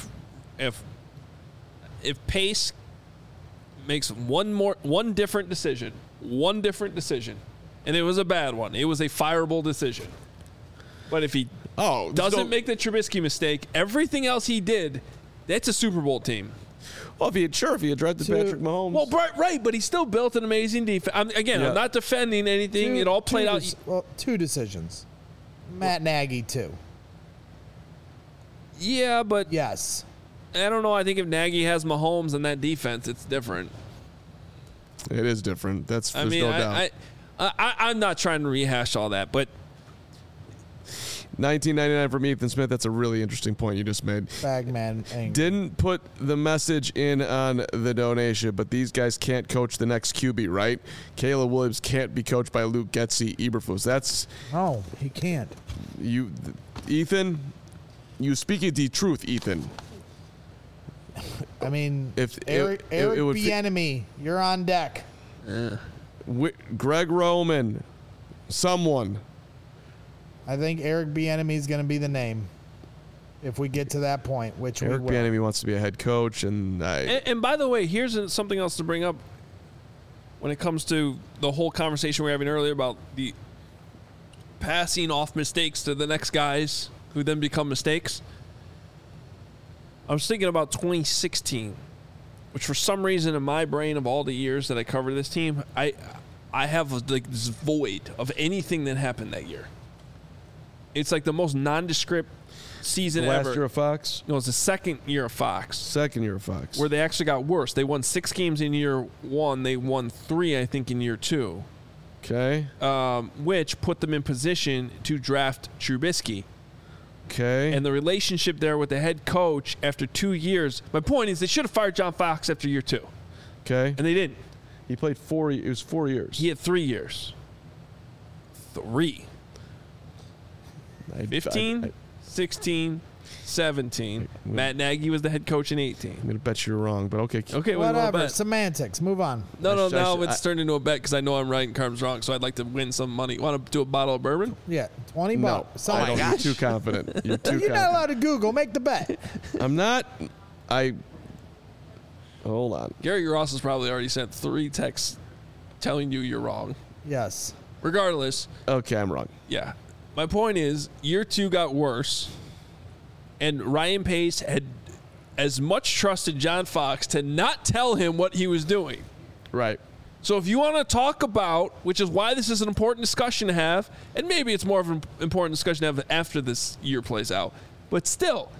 if Pace makes one different decision, and it was a bad one, it was a fireable decision. But if he doesn't make the Trubisky mistake, everything else he did, that's a Super Bowl team. Well, if he had drafted Patrick Mahomes. Well, right, but he still built an amazing defense. I'm not defending anything. It all played out. Two decisions. Matt Nagy, too. Yeah, but Yes. I don't know. I think if Nagy has Mahomes in that defense, it's different. It is different. There's no doubt. I'm not trying to rehash all that, but $19.99 from Ethan Smith. That's a really interesting point you just made. Bagman angry. Didn't put the message in on the donation, but these guys can't coach the next QB, right? Caleb Williams can't be coached by Luke Getsy, Eberflus. That's No, he can't. you, Ethan. You speaking the truth, Ethan. I mean, If Eric it would Bieniemy, you're on deck. Greg Roman, someone. I think Eric Bieniemy is going to be the name if we get to that point, which Eric we will. Bieniemy wants to be a head coach, and by the way, here's something else to bring up when it comes to the whole conversation we were having earlier about the passing off mistakes to the next guys who then become mistakes. I was thinking about 2016, which for some reason in my brain of all the years that I covered this team, I have like this void of anything that happened that year. It's like the most nondescript season ever. last year of Fox. No, it's the second year of Fox. Second year of Fox. Where they actually got worse. They won 6 games in year 1. They won 3, I think, in year 2. Okay. Which put them in position to draft Trubisky. Okay. And the relationship there with the head coach after 2 years. My point is they should have fired John Fox after year 2. Okay. And they didn't. He played 4. It was 4 years. He had 3 years. 3. 15, 16, 17. Matt Nagy was the head coach in 18. I'm going to bet you're wrong, but okay. Okay, what do you want to Whatever. bet? Semantics. Move on. No, now it's I- turned into a bet because I know I'm right and Carm's wrong, so I'd like to win some money. Want to do a bottle of bourbon? Yeah, 20 No, bucks. I don't. You're too confident. You're too You're not confident. allowed to Google. Make the bet. I'm not. Hold on. Gary Ross has probably already sent 3 texts telling you you're wrong. Yes. Regardless, Okay, I'm wrong. yeah. My point is, year 2 got worse, and Ryan Pace had as much trusted John Fox to not tell him what he was doing. Right. So if you want to talk about, which is why this is an important discussion to have, and maybe it's more of an important discussion to have after this year plays out, but still,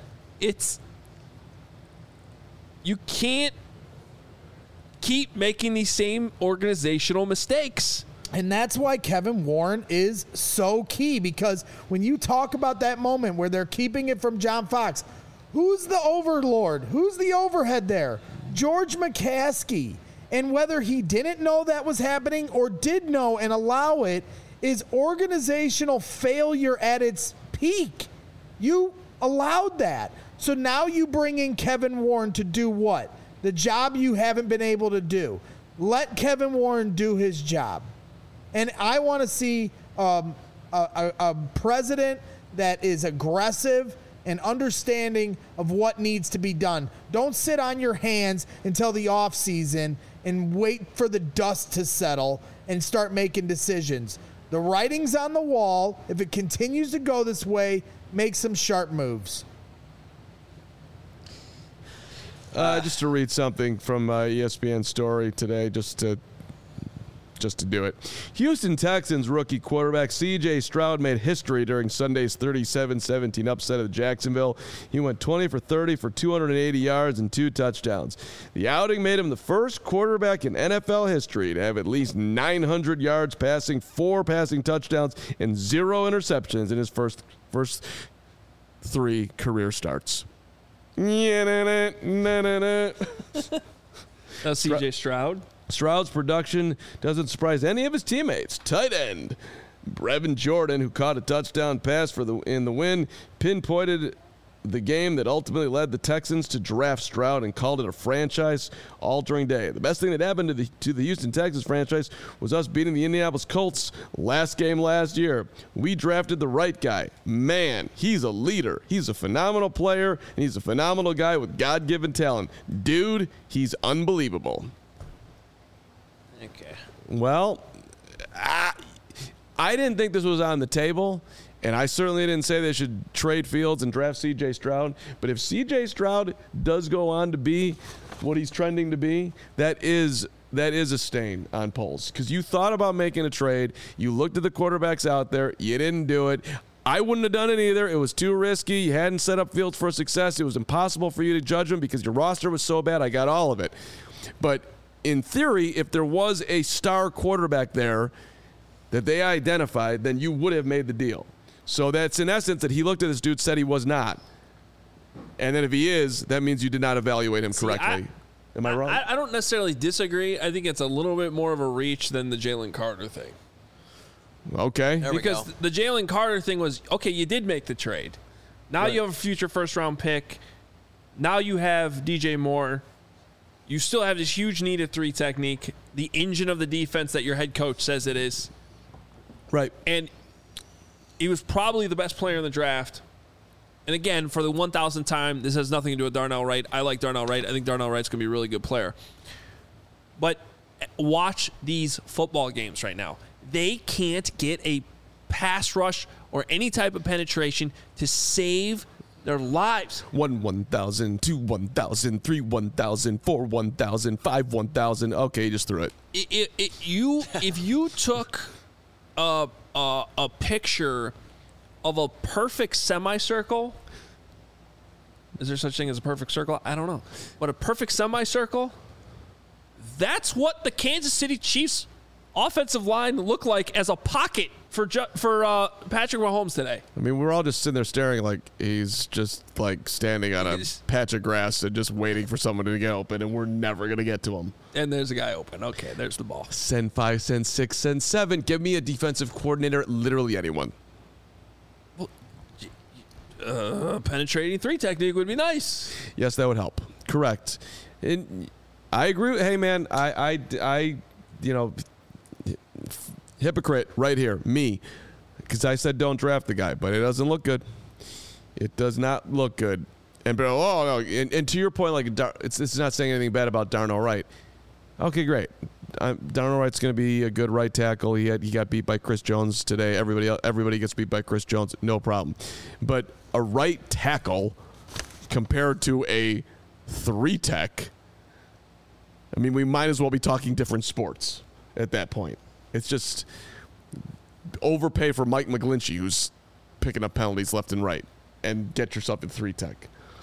you can't keep making these same organizational mistakes. And that's why Kevin Warren is so key, because when you talk about that moment where they're keeping it from John Fox, who's the overlord? Who's the overhead there? George McCaskey. And whether he didn't know that was happening or did know and allow it is organizational failure at its peak. You allowed that. So now you bring in Kevin Warren to do what? The job you haven't been able to do. Let Kevin Warren do his job. And I want to see a president that is aggressive and understanding of what needs to be done. Don't sit on your hands until the offseason and wait for the dust to settle and start making decisions. The writing's on the wall. If it continues to go this way, make some sharp moves. Just to read something from ESPN story today, just to do it. Houston Texans rookie quarterback C.J. Stroud made history during Sunday's 37-17 upset of Jacksonville. He went 20 for 30 for 280 yards and 2 touchdowns. The outing made him the first quarterback in NFL history to have at least 900 yards passing, 4 passing touchdowns, and 0 interceptions in his first 3 career starts. That's C.J. Stroud. Stroud's production doesn't surprise any of his teammates. Tight end Brevin Jordan, who caught a touchdown pass in the win, pinpointed the game that ultimately led the Texans to draft Stroud and called it a franchise-altering day. The best thing that happened to the Houston Texans franchise was us beating the Indianapolis Colts last game last year. We drafted the right guy. Man, he's a leader. He's a phenomenal player, and he's a phenomenal guy with God-given talent. Dude, he's unbelievable. Okay. Well, I didn't think this was on the table, And I certainly didn't say they should trade Fields and draft C.J. Stroud. But if C.J. Stroud does go on to be what he's trending to be, that is a stain on polls. Because you thought about making a trade. You looked at the quarterbacks out there. You didn't do it. I wouldn't have done it either. It was too risky. You hadn't set up Fields for success. It was impossible for you to judge him because your roster was so bad. I got all of it. But in theory, if there was a star quarterback there that they identified, then you would have made the deal. So that's in essence that he looked at this dude, said he was not. And then if he is, that means you did not evaluate him correctly. Am I wrong? I don't necessarily disagree. I think it's a little bit more of a reach than the Jalen Carter thing. Okay. Because the Jalen Carter thing was, okay, you did make the trade. Now you have a future first-round pick. Now you have DJ Moore. You still have this huge need at 3 technique, the engine of the defense that your head coach says it is. Right. And he was probably the best player in the draft. And again, for the 1,000th time, this has nothing to do with Darnell Wright. I like Darnell Wright. I think Darnell Wright's going to be a really good player. But watch these football games right now. They can't get a pass rush or any type of penetration to save their lives. 1, 1,000, 2, 1,000, 3, 1,000, 4, 1,000, 5, 1,000. Okay, you just threw it. If you took a picture of a perfect semicircle, is there such thing as a perfect circle? I don't know. But a perfect semicircle, that's what the Kansas City Chiefs offensive line looked like as a pocket for Patrick Mahomes today. I mean, we're all just sitting there staring like he's just like standing on a patch of grass and just waiting for someone to get open, and we're never going to get to him. And there's a guy open. Okay, there's the ball. Send 5, send 6, send 7. Give me a defensive coordinator, literally anyone. Penetrating 3 technique would be nice. Yes, that would help. Correct. And I agree. Hey, man, I you know, hypocrite right here, me, because I said don't draft the guy, but it doesn't look good. It does not look good. And and to your point, like it's not saying anything bad about Darnell Wright. Okay, great. Darnell Wright's going to be a good right tackle. He got beat by Chris Jones today. Everybody gets beat by Chris Jones, no problem. But a right tackle compared to a 3 tech, I mean, we might as well be talking different sports at that point. It's just overpay for Mike McGlinchey, who's picking up penalties left and right, and get yourself in 3 tech.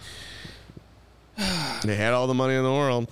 They had all the money in the world.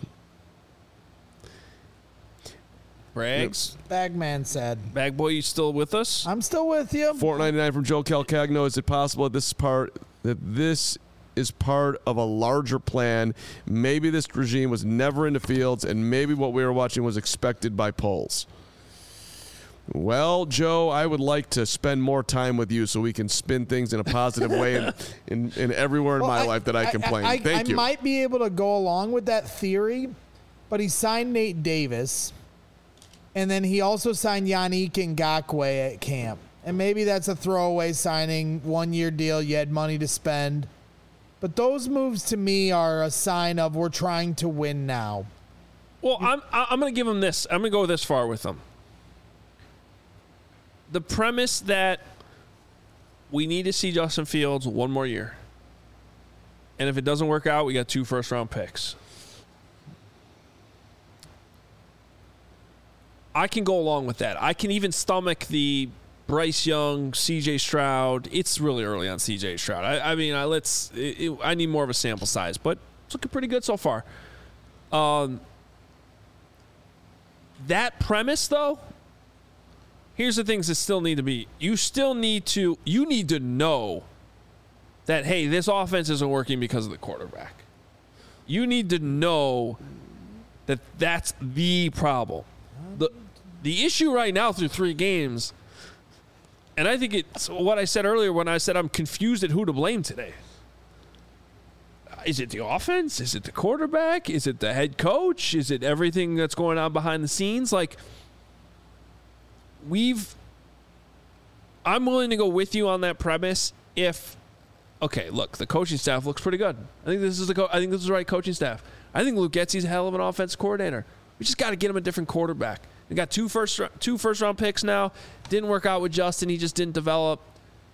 Braggs? Bagman said. Bag boy, you still with us? I'm still with you. $4.99 from Joe Calcagno. Is it possible that this is part of a larger plan? Maybe this regime was never into Fields, and maybe what we were watching was expected by polls. Well, Joe, I would like to spend more time with you so we can spin things in a positive way in everywhere in my life that I complain. Thank you. I might be able to go along with that theory, but he signed Nate Davis, and then he also signed Yannick Ngakoue at camp. And maybe that's a throwaway signing, 1-year deal, you had money to spend. But those moves to me are a sign of we're trying to win now. Well, I'm going to give him this. I'm going to go this far with him. The premise that we need to see Justin Fields 1 more year. And if it doesn't work out, we got 2 first-round picks. I can go along with that. I can even stomach the Bryce Young, C.J. Stroud. It's really early on C.J. Stroud. I need more of a sample size, but it's looking pretty good so far. That premise, though, here's the things that still need to be. You need to know that, hey, this offense isn't working because of the quarterback. You need to know that that's the problem. The issue right now through 3 games, and I think it's what I said earlier when I said I'm confused at who to blame today. Is it the offense? Is it the quarterback? Is it the head coach? Is it everything that's going on behind the scenes? Like, I'm willing to go with you on that premise if, okay, look, the coaching staff looks pretty good. I think this is the right coaching staff. I think Luke Getsy's a hell of an offensive coordinator. We just got to get him a different quarterback. We got 2 first round picks now. Didn't work out with Justin. He just didn't develop.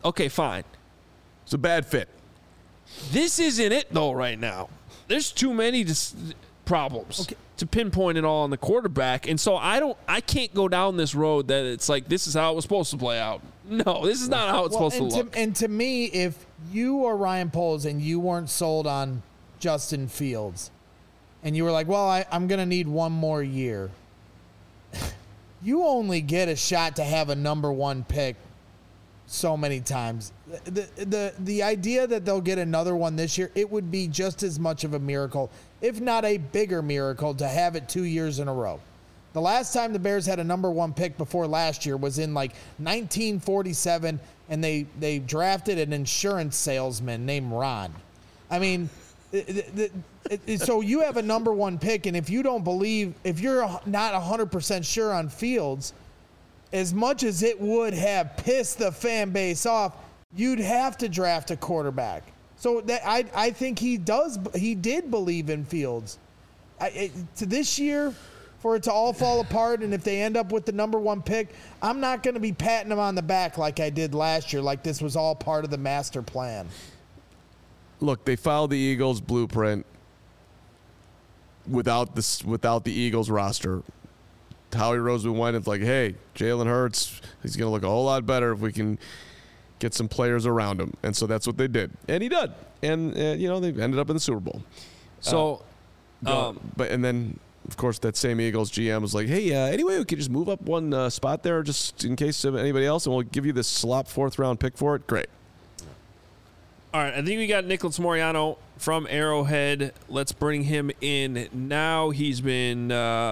Okay, fine. It's a bad fit. This isn't it, though, right now. There's too many problems to pinpoint it all on the quarterback. And so I can't go down this road that it's like this is how it was supposed to play out. No, this is not how it's supposed to look. And to me, if you are Ryan Poles and you weren't sold on Justin Fields, and you were like, well, I'm going to need one more year, you only get a shot to have a number one pick so many times. The idea that they'll get another one this year, it would be just as much of a miracle, if not a bigger miracle, to have it 2 years in a row. The last time the Bears had a number one pick before last year was in like 1947, and they drafted an insurance salesman named Ron. I mean, so you have a number one pick, and if you don't believe, if you're not 100% sure on Fields, as much as it would have pissed the fan base off, you'd have to draft a quarterback. So that I think he did believe in Fields. To this year, for it to all fall apart, and if they end up with the number one pick, I'm not going to be patting him on the back like I did last year, like this was all part of the master plan. Look, they followed the Eagles' blueprint without the Eagles roster. Howie Roseman went, it's like, hey, Jalen Hurts, he's going to look a whole lot better if we can get some players around him. And so that's what they did. And he did. And, they ended up in the Super Bowl. So, and then, of course, that same Eagles GM was like, hey, anyway, we could just move up one spot there just in case of anybody else, and we'll give you this slop fourth-round pick for it. Great. All right, I think we got Nicholas Moreano from Arrowhead. Let's bring him in now. He's been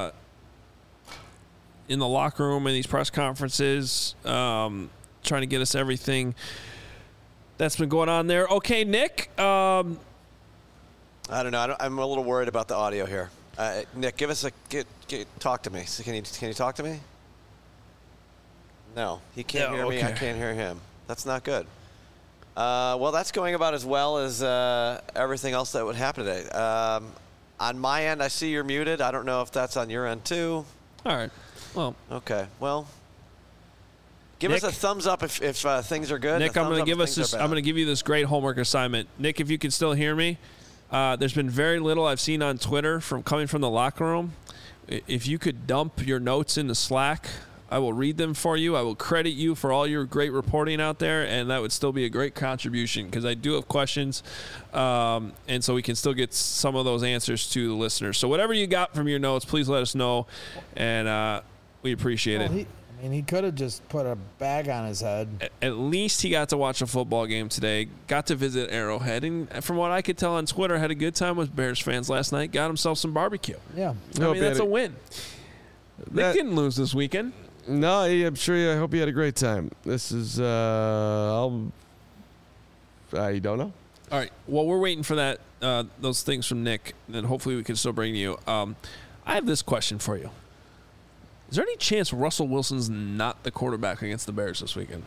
in the locker room in these press conferences, trying to get us everything that's been going on there. Okay, Nick. I don't know. I'm a little worried about the audio here. Nick, talk to me. So can you talk to me? No, he can't hear me. I can't hear him. That's not good. Well, that's going about as well as everything else that would happen today. On my end, I see you're muted. I don't know if that's on your end too. All right. Well. Okay. Well, give us a thumbs up if things are good. Nick, I'm going to give you this great homework assignment. Nick, if you can still hear me, there's been very little I've seen on Twitter coming from the locker room. If you could dump your notes into Slack, I will read them for you. I will credit you for all your great reporting out there, and that would still be a great contribution because I do have questions, and so we can still get some of those answers to the listeners. So whatever you got from your notes, please let us know, and we appreciate it. He could have just put a bag on his head. At least he got to watch a football game today, got to visit Arrowhead, and from what I could tell on Twitter, had a good time with Bears fans last night, got himself some barbecue. Yeah. I mean, that's a win. Nick didn't lose this weekend. No, I'm sure. I hope you had a great time. This is, you don't know? All right. Well, we're waiting for that, those things from Nick, and hopefully we can still bring to you. I have this question for you. Is there any chance Russell Wilson's not the quarterback against the Bears this weekend?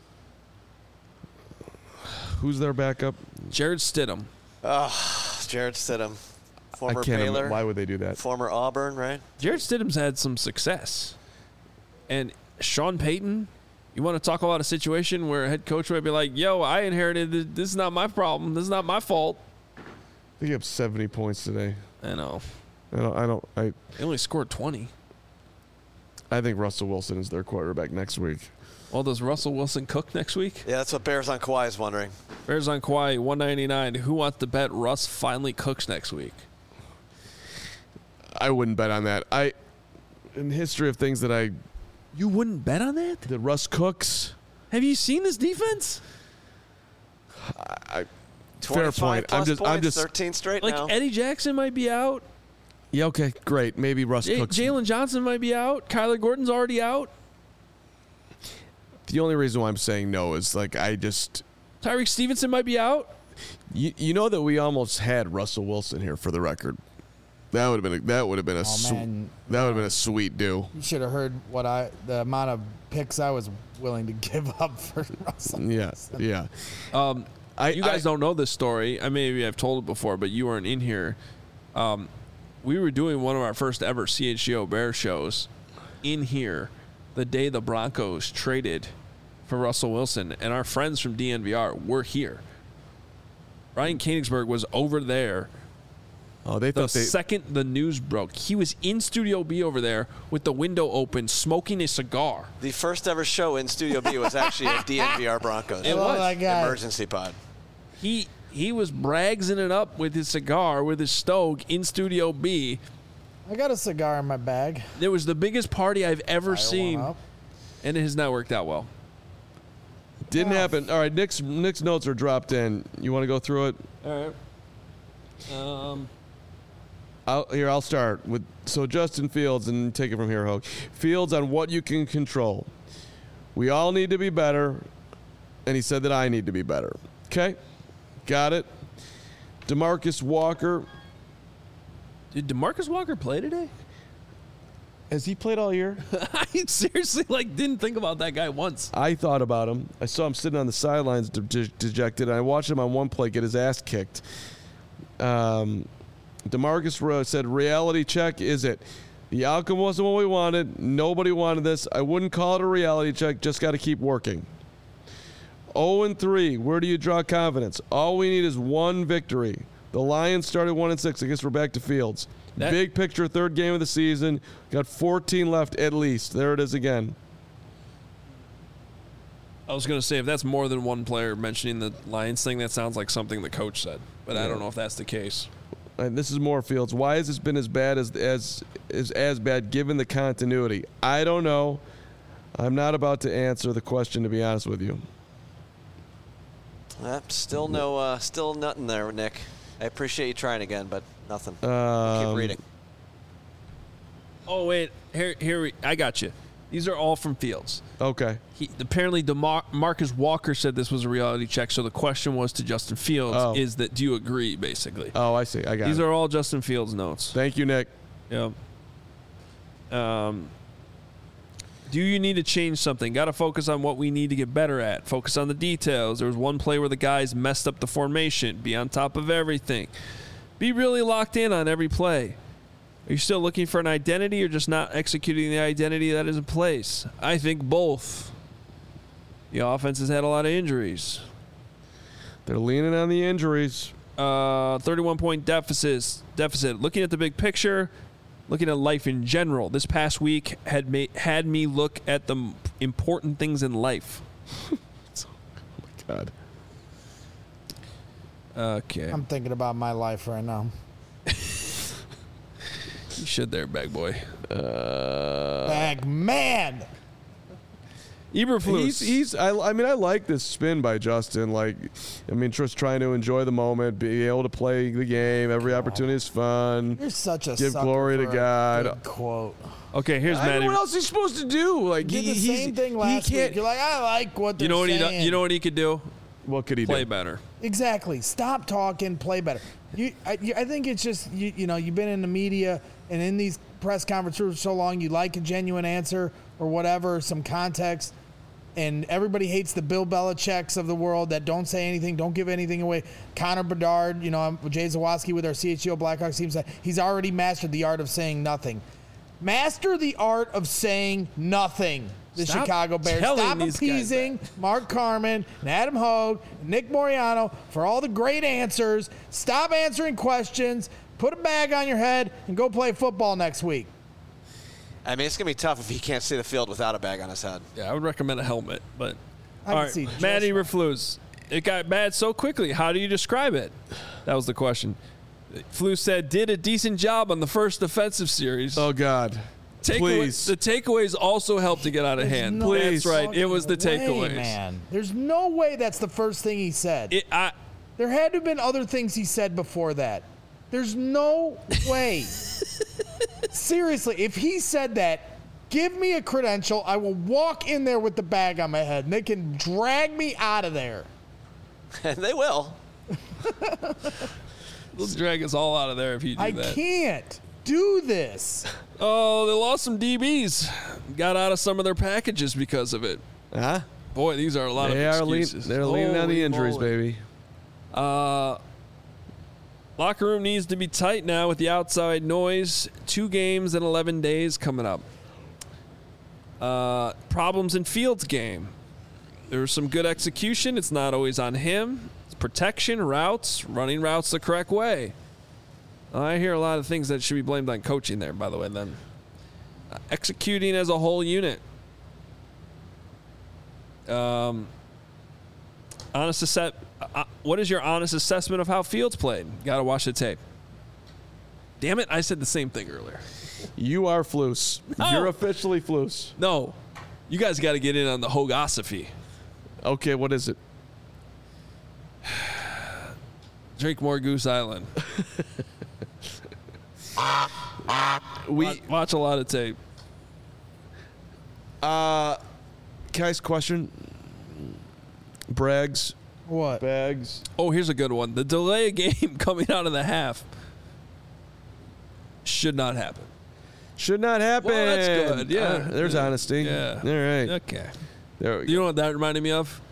Who's their backup? Jarrett Stidham. Jarrett Stidham. Former Baylor. Why would they do that? Former Auburn, right? Jarrett Stidham's had some success. And Sean Payton, you want to talk about a situation where a head coach might be like, yo, I inherited this. This is not my problem. This is not my fault. They gave up 70 points today. I know. They only scored 20. I think Russell Wilson is their quarterback next week. Well, does Russell Wilson cook next week? Yeah, that's what Bears on Kawhi is wondering. Bears on Kawhi, 199. Who wants to bet Russ finally cooks next week? I wouldn't bet on that. In the history of things that You wouldn't bet on that? That Russ cooks? Have you seen this defense? Fair point. I'm just 13 straight now. Eddie Jackson might be out. Yeah, okay, great. Maybe Russ cooks. Jalen Johnson might be out. Kyler Gordon's already out. The only reason why I'm saying no is Tyreek Stevenson might be out. You know that we almost had Russell Wilson here for the record. That would have been a sweet do. You should have heard the amount of picks I was willing to give up for Russell. Yeah. You guys don't know this story. Maybe I've told it before, but you weren't in here. We were doing one of our first ever CHGO Bear shows in here the day the Broncos traded for Russell Wilson, and our friends from DNVR were here. Ryan Koenigsberg was over there. Oh, they The thought they. second the news broke, he was in Studio B over there with the window open, smoking a cigar. The first ever show in Studio B was actually at DNVR Broncos. It was. that guy. Emergency pod. He was bragsing it up with his cigar, with his Stogue in Studio B. I got a cigar in my bag. It was the biggest party I've ever Fire seen, one up. and it has not worked out well. Didn't happen. All right, Nick's notes are dropped in. You want to go through it? All right. I'll start with Justin Fields and take it from here, Hogue. Fields on what you can control. We all need to be better, and he said that I need to be better. Okay, got it. DeMarcus Walker. Did DeMarcus Walker play today? Has he played all year? I seriously didn't think about that guy once. I thought about him. I saw him sitting on the sidelines dejected, and I watched him on one play get his ass kicked. DeMarcus said, reality check, is it? The outcome wasn't what we wanted. Nobody wanted this. I wouldn't call it a reality check. Just got to keep working. 0-3, where do you draw confidence? All we need is one victory. The Lions started 1-6. I guess we're back to Fields. Big picture, third game of the season. Got 14 left at least. There it is again. I was going to say, if that's more than one player mentioning the Lions thing, that sounds like something the coach said. But I don't know if that's the case. And this is more Fields. Why has this been as bad as bad given the continuity? I don't know. I'm not about to answer the question, to be honest with you. Still nothing there, Nick. I appreciate you trying again, but nothing. Keep reading. Oh, wait. Here I got you. These are all from Fields. Okay. Apparently, Marcus Walker said this was a reality check, so the question was to Justin Fields, is that do you agree, basically? Oh, I see. I got it. These are all Justin Fields notes. Thank you, Nick. Yep. Do you need to change something? Got to focus on what we need to get better at. Focus on the details. There was one play where the guys messed up the formation. Be on top of everything. Be really locked in on every play. Are you still looking for an identity or just not executing the identity that is in place? I think both. The offense has had a lot of injuries. They're leaning on the injuries. 31-point deficit. Looking at the big picture, looking at life in general, this past week had me look at the important things in life. Oh, my God. Okay. I'm thinking about my life right now. You should there, bag boy. Bag man. Eberflus. I like this spin by Justin. Just trying to enjoy the moment, be able to play the game. Every opportunity is fun. You're such a Give sucker glory to for a God. good quote. Okay, here's Matty. What else is he supposed to do? You did the same thing last week. You're like, I like what they're saying. You know what he could do? What could he Play do? better. Exactly. Stop talking. Play better. I think it's just you've been in the media and in these press conferences for so long. You like a genuine answer or whatever, some context, and everybody hates the Bill Belichick's of the world that don't say anything, don't give anything away. Connor Bedard, Jay Zawoski with our CHGO Blackhawks team said he's already mastered the art of saying nothing. Master the art of saying nothing. The Stop Chicago Bears. telling Stop these guys appeasing Mark Carman and Adam Hogue and Nick Moriano for all the great answers. Stop answering questions. Put a bag on your head and go play football next week. I mean, it's going to be tough if he can't see the field without a bag on his head. Yeah, I would recommend a helmet. But I all can right, see just Matty fine. Eberflus. It got bad so quickly. How do you describe it? That was the question. said, did a decent job on the first defensive series. Oh, God. Please. The takeaways also helped to get out of hand. No That's right. It was the fucking way, takeaways. man. There's no way that's the first thing he said. There had to have been other things he said before that. There's no way. Seriously, if he said that, give me a credential. I will walk in there with the bag on my head, and they can drag me out of there. And they will. They'll drag us all out of there if you do that. I can't do this. Oh, they lost some DBs. Got out of some of their packages because of it. Huh? Boy, these are a lot of excuses. They're leaning on the Holy injuries, moly. baby. Locker room needs to be tight now with the outside noise. 2 games in 11 days coming up. Problems in Fields' game. there was some good execution. It's not always on him. It's protection, routes, running routes the correct way. I hear a lot of things that should be blamed on coaching there, by the way, then. Executing as a whole unit. What is your honest assessment of how Fields played? Got to watch the tape. Damn it, I said the same thing earlier. You are Flus. No. You're officially Flus. No, you guys got to get in on the Hogosophy. Okay, what is it? Drink more Goose Island. Watch a lot of tape. Kai's question. Braggs. What? Bags. Oh, here's a good one. The delay of game coming out of the half should not happen. Should not happen. Well, that's good. Yeah. There's honesty. Yeah. All right. Okay. There we go. You know what that reminded me of?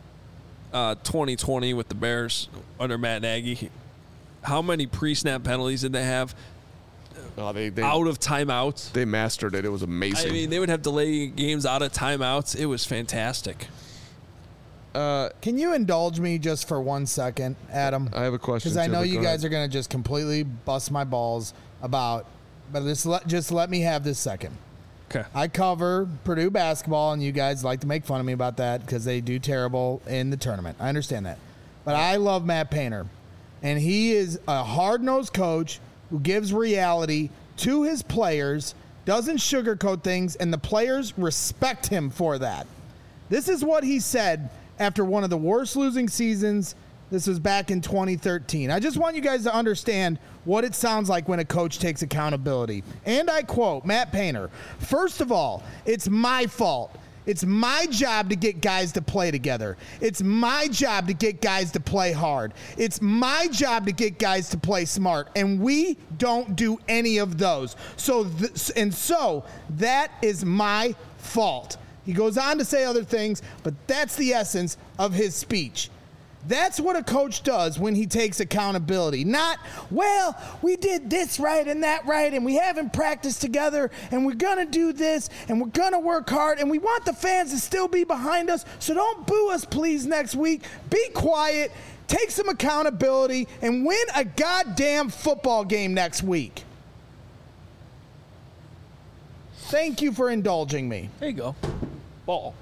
2020 with the Bears under Matt Nagy. How many pre-snap penalties did they have? Oh, they Out of timeouts. They mastered it. It was amazing. I mean, they would have delay games out of timeouts. It was fantastic. Can you indulge me just for 1 second, Adam? I have a question. Because I know too, but you go guys ahead. are going to just completely bust my balls about, but just let me have this second. Okay. I cover Purdue basketball, and you guys like to make fun of me about that because they do terrible in the tournament. I understand that. But I love Matt Painter, and he is a hard-nosed coach who gives reality to his players, doesn't sugarcoat things, and the players respect him for that. This is what he said after one of the worst losing seasons. This was back in 2013. I just want you guys to understand what it sounds like when a coach takes accountability. And I quote Matt Painter, "First of all, it's my fault. It's my job to get guys to play together. It's my job to get guys to play hard. It's my job to get guys to play smart. And we don't do any of those. So that is my fault." He goes on to say other things, but that's the essence of his speech. That's what a coach does when he takes accountability. Not, well, we did this right and that right, and we haven't practiced together, and we're going to do this, and we're going to work hard, and we want the fans to still be behind us, so don't boo us, please, next week. Be quiet, take some accountability, and win a goddamn football game next week. Thank you for indulging me. There you go. Ball.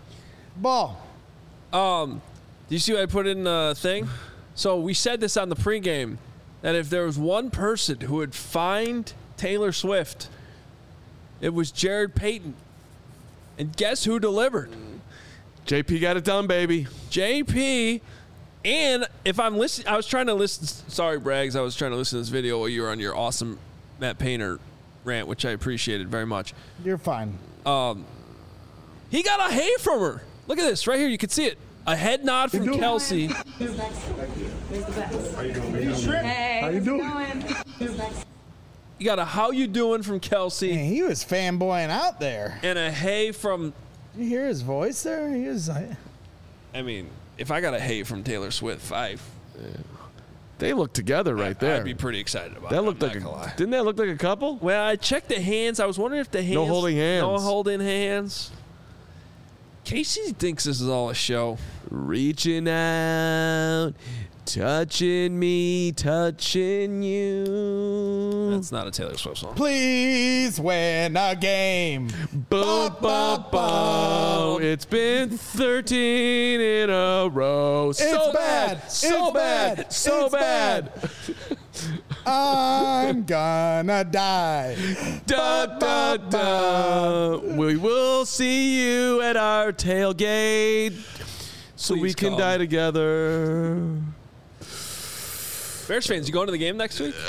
Do you see what I put in the thing? So we said this on the pregame, that if there was one person who would find Taylor Swift, it was Jared Payton. And guess who delivered? JP got it done, baby. JP. And if I'm listening, I was trying to listen. Sorry, Braggs. I was trying to listen to this video while you were on your awesome Matt Painter rant, which I appreciated very much. You're fine. He got a hey from her. Look at this right here. You can see it. A head nod from Kelsey. Who's next? Who's the best? How you doing, baby? Hey, How you doing? Who's next? You got a how you doing from Kelsey. Man, he was fanboying out there. And a hey from... Did you hear his voice there? He was like... I mean, if I got a hey from Taylor Swift, They look together right there. I'd be pretty excited about That it. looked I'm like not gonna lie. didn't that look like a couple? Well, I checked the hands. I was wondering if the hands... No holding hands. No holding hands. Casey thinks this is all a show. Reaching out, touching me, touching you. That's not a Taylor Swift song. Please win a game. Boom, boom, boom. It's been 13 in a row. So It's bad. bad. So It's bad. bad. So It's bad. I'm gonna die. Da, da, da. We will see you at our tailgate so we Please can come. die together. Bears fans, you going to the game next week?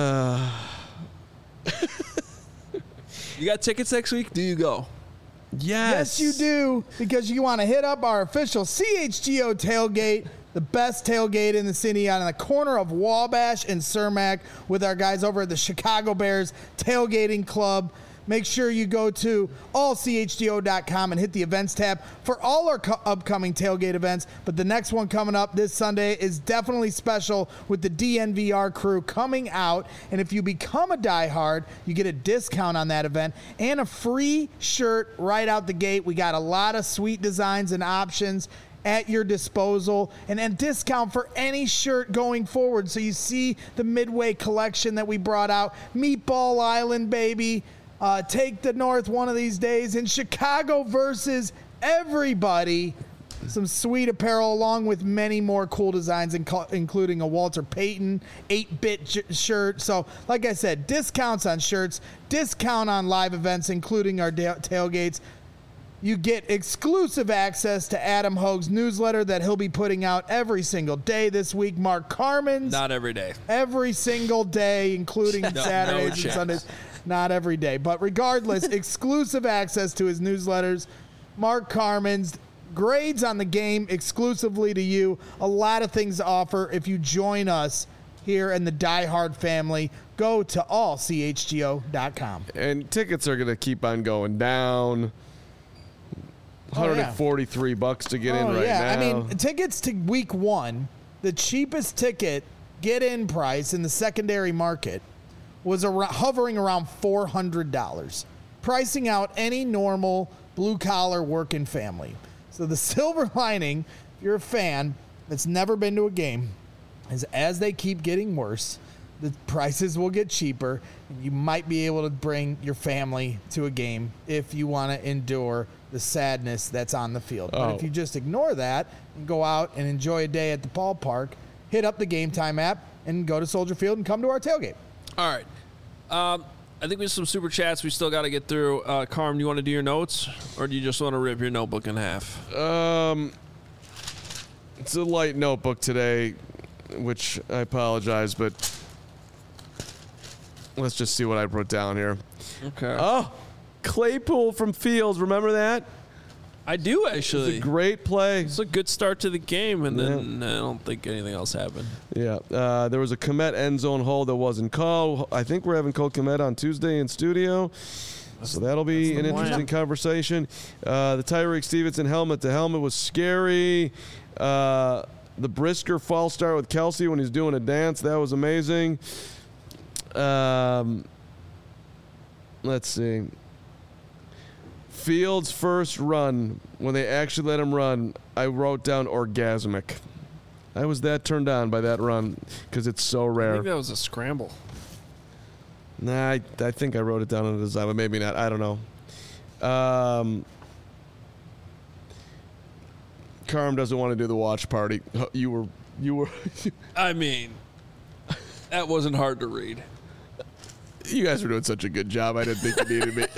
You got tickets next week? Do you go? Yes, you do, because you want to hit up our official CHGO tailgate, the best tailgate in the city, on the corner of Wabash and Cermak with our guys over at the Chicago Bears Tailgating Club. Make sure you go to allchgo.com and hit the events tab for all our upcoming tailgate events. But the next one coming up this Sunday is definitely special with the DNVR crew coming out. And if you become a diehard, you get a discount on that event and a free shirt right out the gate. We got a lot of sweet designs and options. at your disposal, and a discount for any shirt going forward. So you see the Midway collection that we brought out. Meatball Island, baby. Take the North one of these days. In Chicago versus everybody. Some sweet apparel along with many more cool designs, including a Walter Payton 8-bit shirt. So, like I said, discounts on shirts, discount on live events, including our tailgates. You get exclusive access to Adam Hogue's newsletter that he'll be putting out every single day this week. Mark Carman's. Not every day. Every single day, including Saturdays and Sundays. Not every day. But regardless, exclusive access to his newsletters. Mark Carman's. Grades on the game exclusively to you. A lot of things to offer if you join us here in the Die Hard family. Go to allchgo.com. And tickets are going to keep on going down. $143 to get in right now. I mean, tickets to week 1, the cheapest ticket get-in price in the secondary market was hovering around $400, pricing out any normal blue-collar working family. So the silver lining, if you're a fan that's never been to a game, is as they keep getting worse, the prices will get cheaper, and you might be able to bring your family to a game if you want to endure the sadness that's on the field. But if you just ignore that and go out and enjoy a day at the ballpark, hit up the Game Time app and go to Soldier Field and come to our tailgate. All right. I think we have some super chats we still got to get through. Carm, do you want to do your notes, or do you just want to rip your notebook in half? It's a light notebook today, which I apologize, but let's just see what I wrote down here. Okay. Oh, Claypool from Fields. Remember that? I do, actually. It's a great play. It's a good start to the game, and then I don't think anything else happened. Yeah. There was a Kmet end zone hold that wasn't called. I think we're having Cole Kmet on Tuesday in studio. So that'll be an interesting conversation. The Tyreek Stevenson helmet to helmet was scary. The Brisker false start with Kelsey when he's doing a dance, that was amazing. Let's see. Fields' first run, when they actually let him run, I wrote down orgasmic. I was that turned on by that run because it's so rare. I think that was a scramble. Nah, I think I wrote it down on the design, but maybe not. I don't know. Carm doesn't want to do the watch party. You were. I mean, that wasn't hard to read. You guys were doing such a good job. I didn't think you needed me.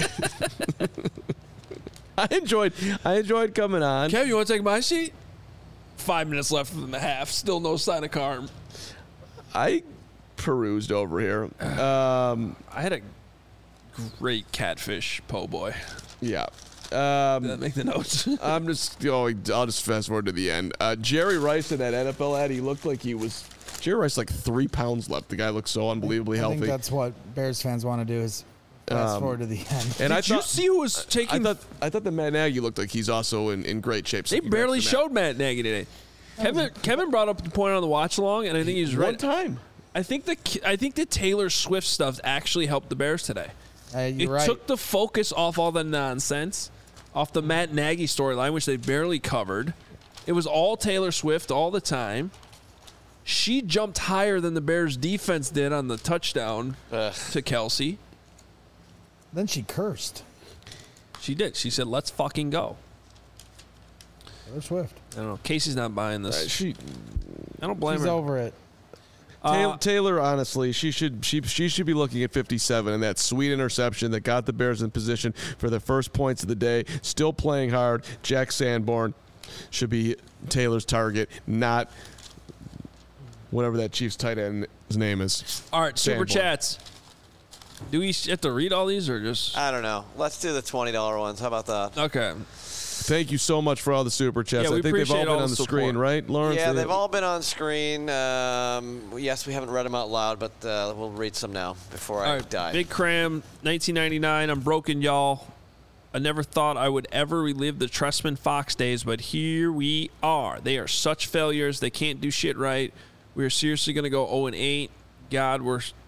I enjoyed coming on. Kev, you want to take my seat? 5 minutes left in the half. Still no sign of Carm. I perused over here. I had a great catfish po' boy. Yeah. Did that make the notes? I'll just fast forward to the end. Jerry Rice in that NFL ad, he looked like he was. Jerry Rice like 3 pounds left. The guy looked so unbelievably healthy. I think that's what Bears fans want to do is fast forward to the end. And Did you see who was taking? I thought that Matt Nagy looked like he's also in great shape. They barely showed Matt Nagy today. Kevin brought up the point on the watch along, and I think he's right. One time. I think the Taylor Swift stuff actually helped the Bears today. You're right. Took the focus off all the nonsense, off the Matt Nagy storyline, which they barely covered. It was all Taylor Swift all the time. She jumped higher than the Bears defense did on the touchdown to Kelsey. Then she cursed. She did. She said, "Let's fucking go." Taylor Swift. I don't know. Casey's not buying this. I don't blame She's her. over it. Taylor, honestly, she should be looking at 57, and that sweet interception that got the Bears in position for the first points of the day. Still playing hard. Jack Sanborn should be Taylor's target, not whatever that Chiefs tight end's name is. All right, Sanborn. super chats. Do we have to read all these or just? I don't know. Let's do the $20 ones. How about that? Okay. Thank you so much for all the super chats. Yeah, we I think they've all appreciate been all on the the screen, support. right, Lawrence? Yeah, they've all been on screen. Yes, we haven't read them out loud, but we'll read some now before I die. Big Cram, 1999. I'm broken, y'all. I never thought I would ever relive the Trestman Fox days, but here we are. They are such failures. They can't do shit right. We are seriously going to go 0-8. God, we're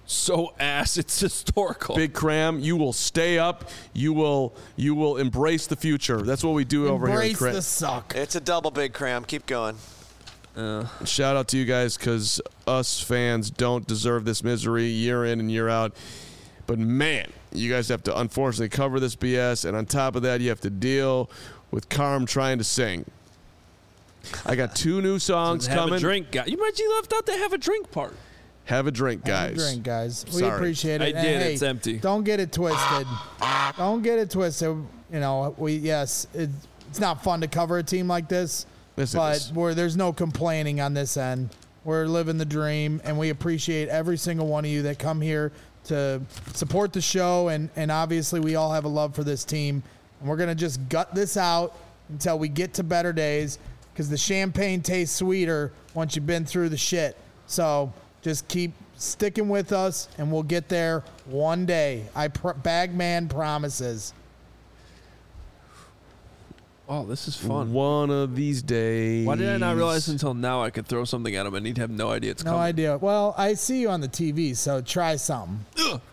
so ass. It's historical. Big Cram, you will stay up. You will embrace the future. That's what we do over here. Embrace the suck. It's a double Big Cram. Keep going. Shout out to you guys because us fans don't deserve this misery year in and year out. But man, you guys have to unfortunately cover this BS, and on top of that, you have to deal with Carm trying to sing. I got 2 new songs have coming. A drink, guy. You might left out the have a drink part. Have a drink, guys. Have a drink, guys. We Sorry. appreciate it. I And did. hey, It's empty. Don't get it twisted. Don't get it twisted. You know, it's not fun to cover a team like this, Yes, it but is. there's no complaining on this end. We're living the dream, and we appreciate every single one of you that come here to support the show, and obviously we all have a love for this team, and we're going to just gut this out until we get to better days, because the champagne tastes sweeter once you've been through the shit. So just keep sticking with us, and we'll get there one day. Bagman promises. Oh, this is fun. One of these days. Why did I not realize until now I could throw something at him and he'd have no idea it's No coming? idea. Well, I see you on the TV, so try something.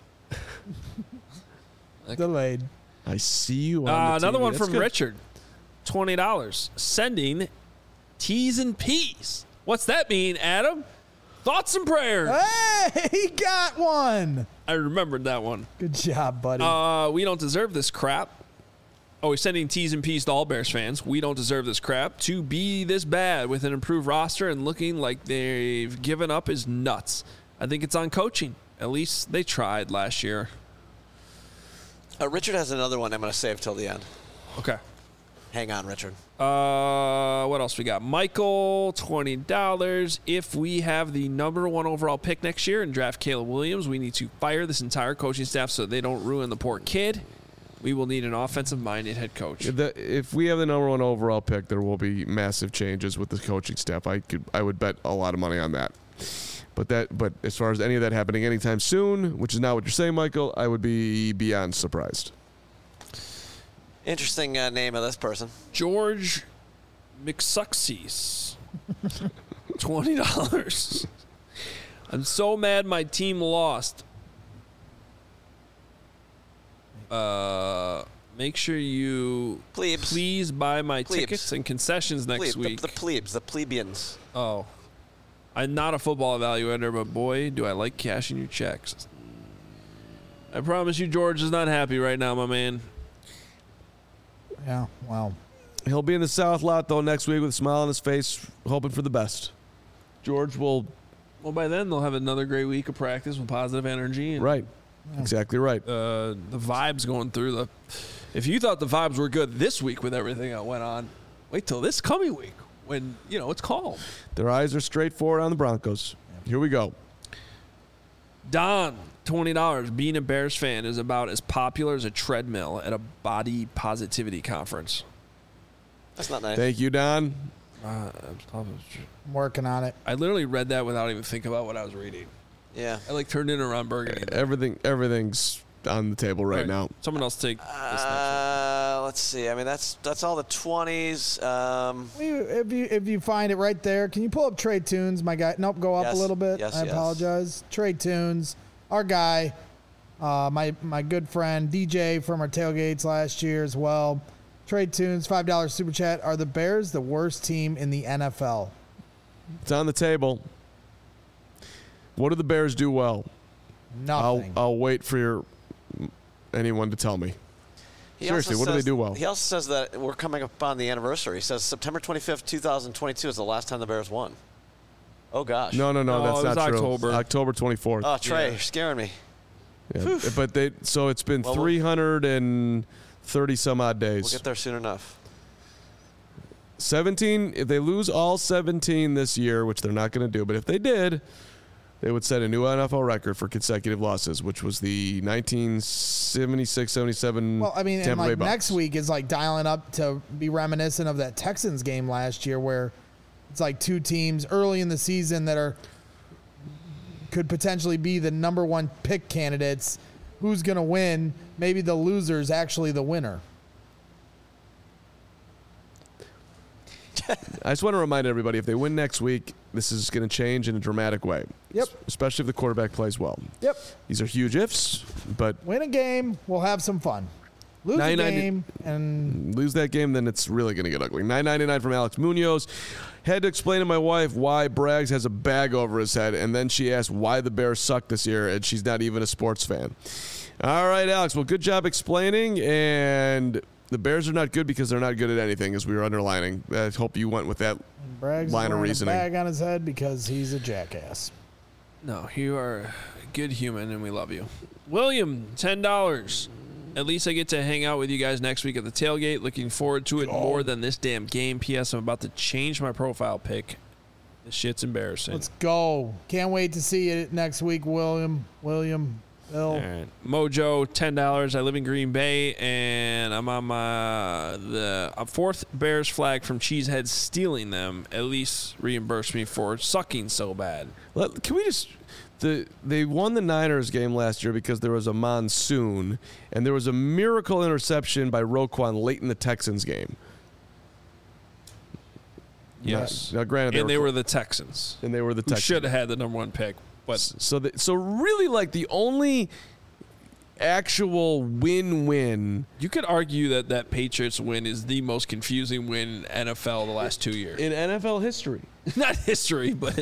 Delayed. I see you on the Another TV. one That's from good. Richard. $20. Sending T's and P's. What's that mean, Adam? Thoughts and prayers. Hey, he got one. I remembered that one. Good job, buddy. We don't deserve this crap. Oh, he's sending T's and P's to all Bears fans. We don't deserve this crap. To be this bad with an improved roster and looking like they've given up is nuts. I think it's on coaching. At least they tried last year. Richard has another one I'm going to save till the end. Okay. Hang on, Richard. What else we got? Michael, $20. If we have the number 1 overall pick next year and draft Caleb Williams, we need to fire this entire coaching staff so they don't ruin the poor kid. We will need an offensive-minded head coach. If we have the number 1 overall pick, there will be massive changes with the coaching staff. I would bet a lot of money on that. But as far as any of that happening anytime soon, which is not what you're saying, Michael, I would be beyond surprised. Interesting name of this person. George McSucksies. $20. I'm so mad my team lost. Make sure you please buy my tickets and concessions next week. The plebes, the plebeians. Oh. I'm not a football evaluator, but boy, do I like cashing your checks. I promise you George is not happy right now, my man. Yeah, wow. He'll be in the South lot, though, next week with a smile on his face, hoping for the best. George will... Well, by then, they'll have another great week of practice with positive energy. And, Right. Exactly right. The vibes going through the... If you thought the vibes were good this week with everything that went on, wait till this coming week when, it's calm. Their eyes are straight forward on the Broncos. Here we go. Don, $20. Being a Bears fan is about as popular as a treadmill at a body positivity conference. That's not nice. Thank you, Don. I'm working on it. I literally read that without even thinking about what I was reading. Yeah. I turned in around Burgundy. Everything's on the table right now. Someone else take this next Let's see. I mean, that's all the 20s. If you find it right there, can you pull up Trey Tunes, my guy? Nope, go up Yes, a little bit. yes, I yes. apologize. Trey Tunes, our guy, my good friend DJ from our tailgates last year as well. Trey Tunes, $5 super chat. Are the Bears the worst team in the NFL? It's on the table. What do the Bears do well? Nothing. I'll wait for anyone to tell me. He Seriously, also what do they says- do well? He also says that we're coming up on the anniversary. He says September 25th, 2022 is the last time the Bears won. Oh, gosh. No, No, that's it was not true. October. October 24th. Oh, Trey, Yeah. you're scaring me. Yeah. But it's been Well, 330 some odd days. We'll get there soon enough. 17, if they lose all 17 this year, which they're not going to do, but if they did, they would set a new NFL record for consecutive losses, which was the 1976-77 Well, I mean, and Tampa Bay like Bucks. next week is like dialing up to be reminiscent of that Texans game last year, where it's like two teams early in the season that could potentially be the number 1 pick candidates. Who's going to win? Maybe the loser's actually the winner. I just want to remind everybody, if they win next week, this is going to change in a dramatic way. Yep. Especially if the quarterback plays well. Yep. These are huge ifs, but Win a game, we'll have some fun. Lose a game, and lose that game, then it's really going to get ugly. $9.99 from Alex Munoz. Had to explain to my wife why Braggs has a bag over his head, and then she asked why the Bears suck this year, and she's not even a sports fan. All right, Alex. Well, good job explaining, and the Bears are not good because they're not good at anything, as we were underlining. I hope you went with that Braggs line of wearing reasoning. a bag on his head because he's a jackass. No, you are a good human, and we love you. William, $10. At least I get to hang out with you guys next week at the tailgate. Looking forward to it more than this damn game. P.S. I'm about to change my profile pic. This shit's embarrassing. Let's go. Can't wait to see you next week, William, Bill. All right. Mojo, $10. I live in Green Bay, and I'm on the fourth Bears flag from Cheesehead stealing them. At least reimburse me for sucking so bad. Can we just... They won the Niners game last year because there was a monsoon, and there was a miracle interception by Roquan late in the Texans game. Yes. Now, granted, they were the Texans. And they were the Who Texans. should have had the number one pick. But So really, like, the only actual win-win you could argue that Patriots win is the most confusing win in NFL the last 2 years. in NFL history. Not history, but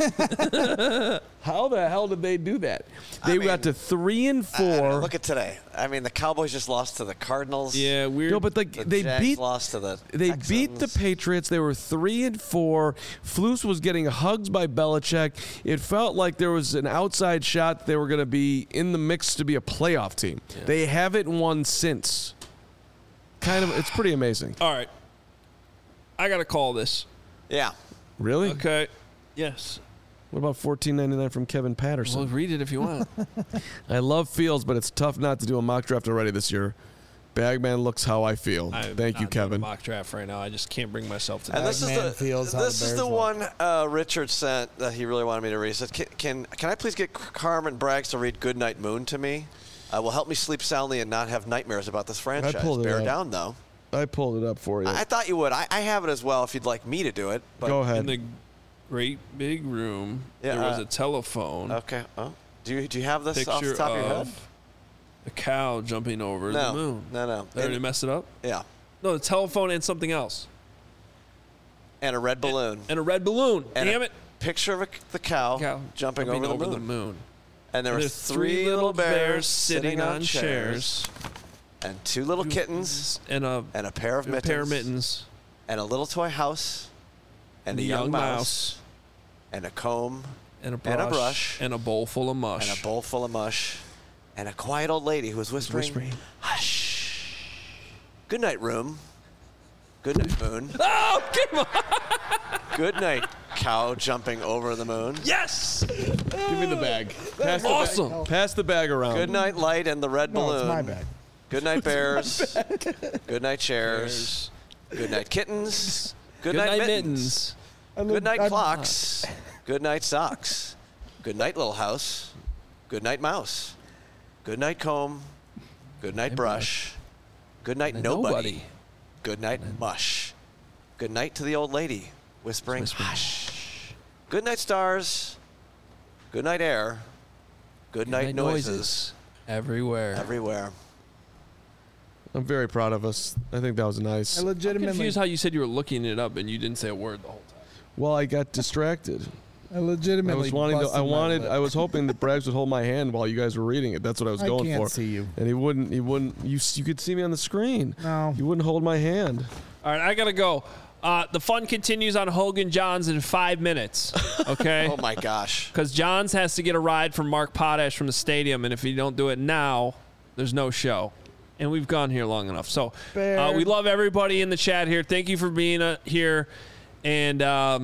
How the hell did they do that? They got to 3-4. Look at today. I mean, the Cowboys just lost to the Cardinals. yeah, weird. No, but The they Jags lost to the beat the Texans. Patriots. They were 3-4. Flus was getting hugs by Belichick. It felt like there was an outside shot they were going to be in the mix to be a playoff team. Yeah. They haven't won since. It's pretty amazing. All right, I got to call this. Yeah. Really? Okay. Yes. What about $14.99 from Kevin Patterson? Well, read it if you want. I love Fields, but it's tough not to do a mock draft already this year. Bagman looks how I feel. I'm Thank you, not doing a Kevin. mock draft right now. I just can't bring myself to And that. this is Man feels how the this is Bears the look. one Richard sent that he really wanted me to read. He said, can I please get Carmen Braggs to read Goodnight Moon to me? Will help me sleep soundly and not have nightmares about this franchise. pulled it Bear up. down, though. I pulled it up for you. I thought you would. I have it as well if you'd like me to do it. But Go In ahead. the great big room, Yeah, there was a telephone. Okay. Oh. Do you have this off the Picture top of your head? of a cow jumping over the moon. No. Did I already mess it up? Yeah. No, the telephone and something else. And a red balloon. And a red balloon. And Damn a it. Picture of the cow, jumping over the moon. And there were there's three little bears sitting on chairs. chairs. And two little kittens. And a pair of mittens. pair of mittens. And a little toy house. And a young mouse. And a comb. And a brush. And a bowl full of mush. And a bowl full of mush. And a quiet old lady who was whispering, hush. Good night, room. Good night, moon. Oh, come on. Good night, cow jumping over the moon. Yes. Give me the bag. Pass Awesome. Pass the bag around. Good night, light and the red No, balloon. it's my bag. Good night, bears. Good night, chairs. Good night, kittens. Good night, mittens. Good night, clocks. Good night, socks. Good night, little house. Good night, mouse. Good night, comb. Good night, brush. Good night, nobody. Good night, mush. Good night to the old lady, whispering, hush. Good night, stars. Good night, air. Good night, noises. Everywhere. Everywhere. I'm very proud of us. I think that was nice. I I'm legitimately, confused how you said you were looking it up and you didn't say a word the whole time. Well, I got distracted. I legitimately. busted my lip. I was hoping that Braggs would hold my hand while you guys were reading it. That's what I was I going can't for. see you. And he wouldn't. You could see me on the screen. No. You wouldn't hold my hand. All right, I got to go. The fun continues on Hogan Johns in 5 minutes, okay? Oh, my gosh. Because Johns has to get a ride from Mark Potash from the stadium, and if you don't do it now, there's no show. And we've gone here long enough. So Bear. we love everybody in the chat here. Thank you for being here. And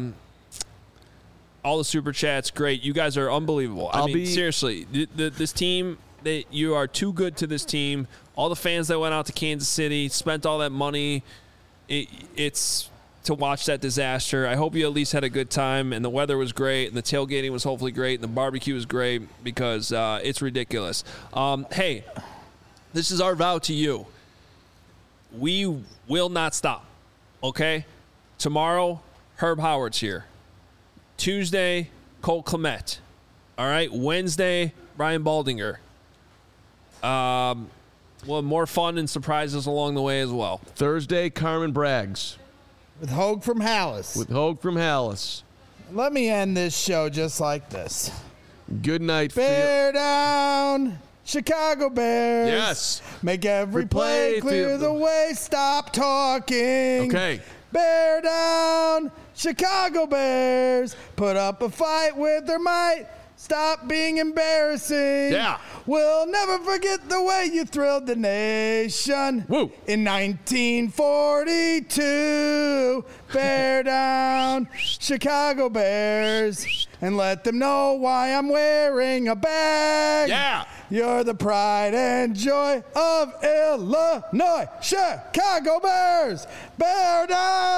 all the super chats, great. You guys are unbelievable. I mean, seriously, this team, you are too good to this team. All the fans that went out to Kansas City, spent all that money. It's to watch that disaster. I hope you at least had a good time, and the weather was great, and the tailgating was hopefully great, and the barbecue was great because it's ridiculous. Hey, this is our vow to you. We will not stop, okay? Tomorrow, Herb Howard's here. Tuesday, Cole Kmet. All right. Wednesday, Ryan Baldinger. Well, more fun and surprises along the way as well. Thursday, Carmen Braggs. With Hogue from Hallis. Let me end this show just like this. Good night, Bear down, Chicago Bears. Yes. Make every play clear the way. Stop talking. Okay. Bear down, Chicago Bears. Put up a fight with their might. Stop being embarrassing. Yeah. We'll never forget the way you thrilled the nation. Woo. In 1942, bear down, Chicago Bears, and let them know why I'm wearing a bag. Yeah. You're the pride and joy of Illinois. Chicago Bears, bear down.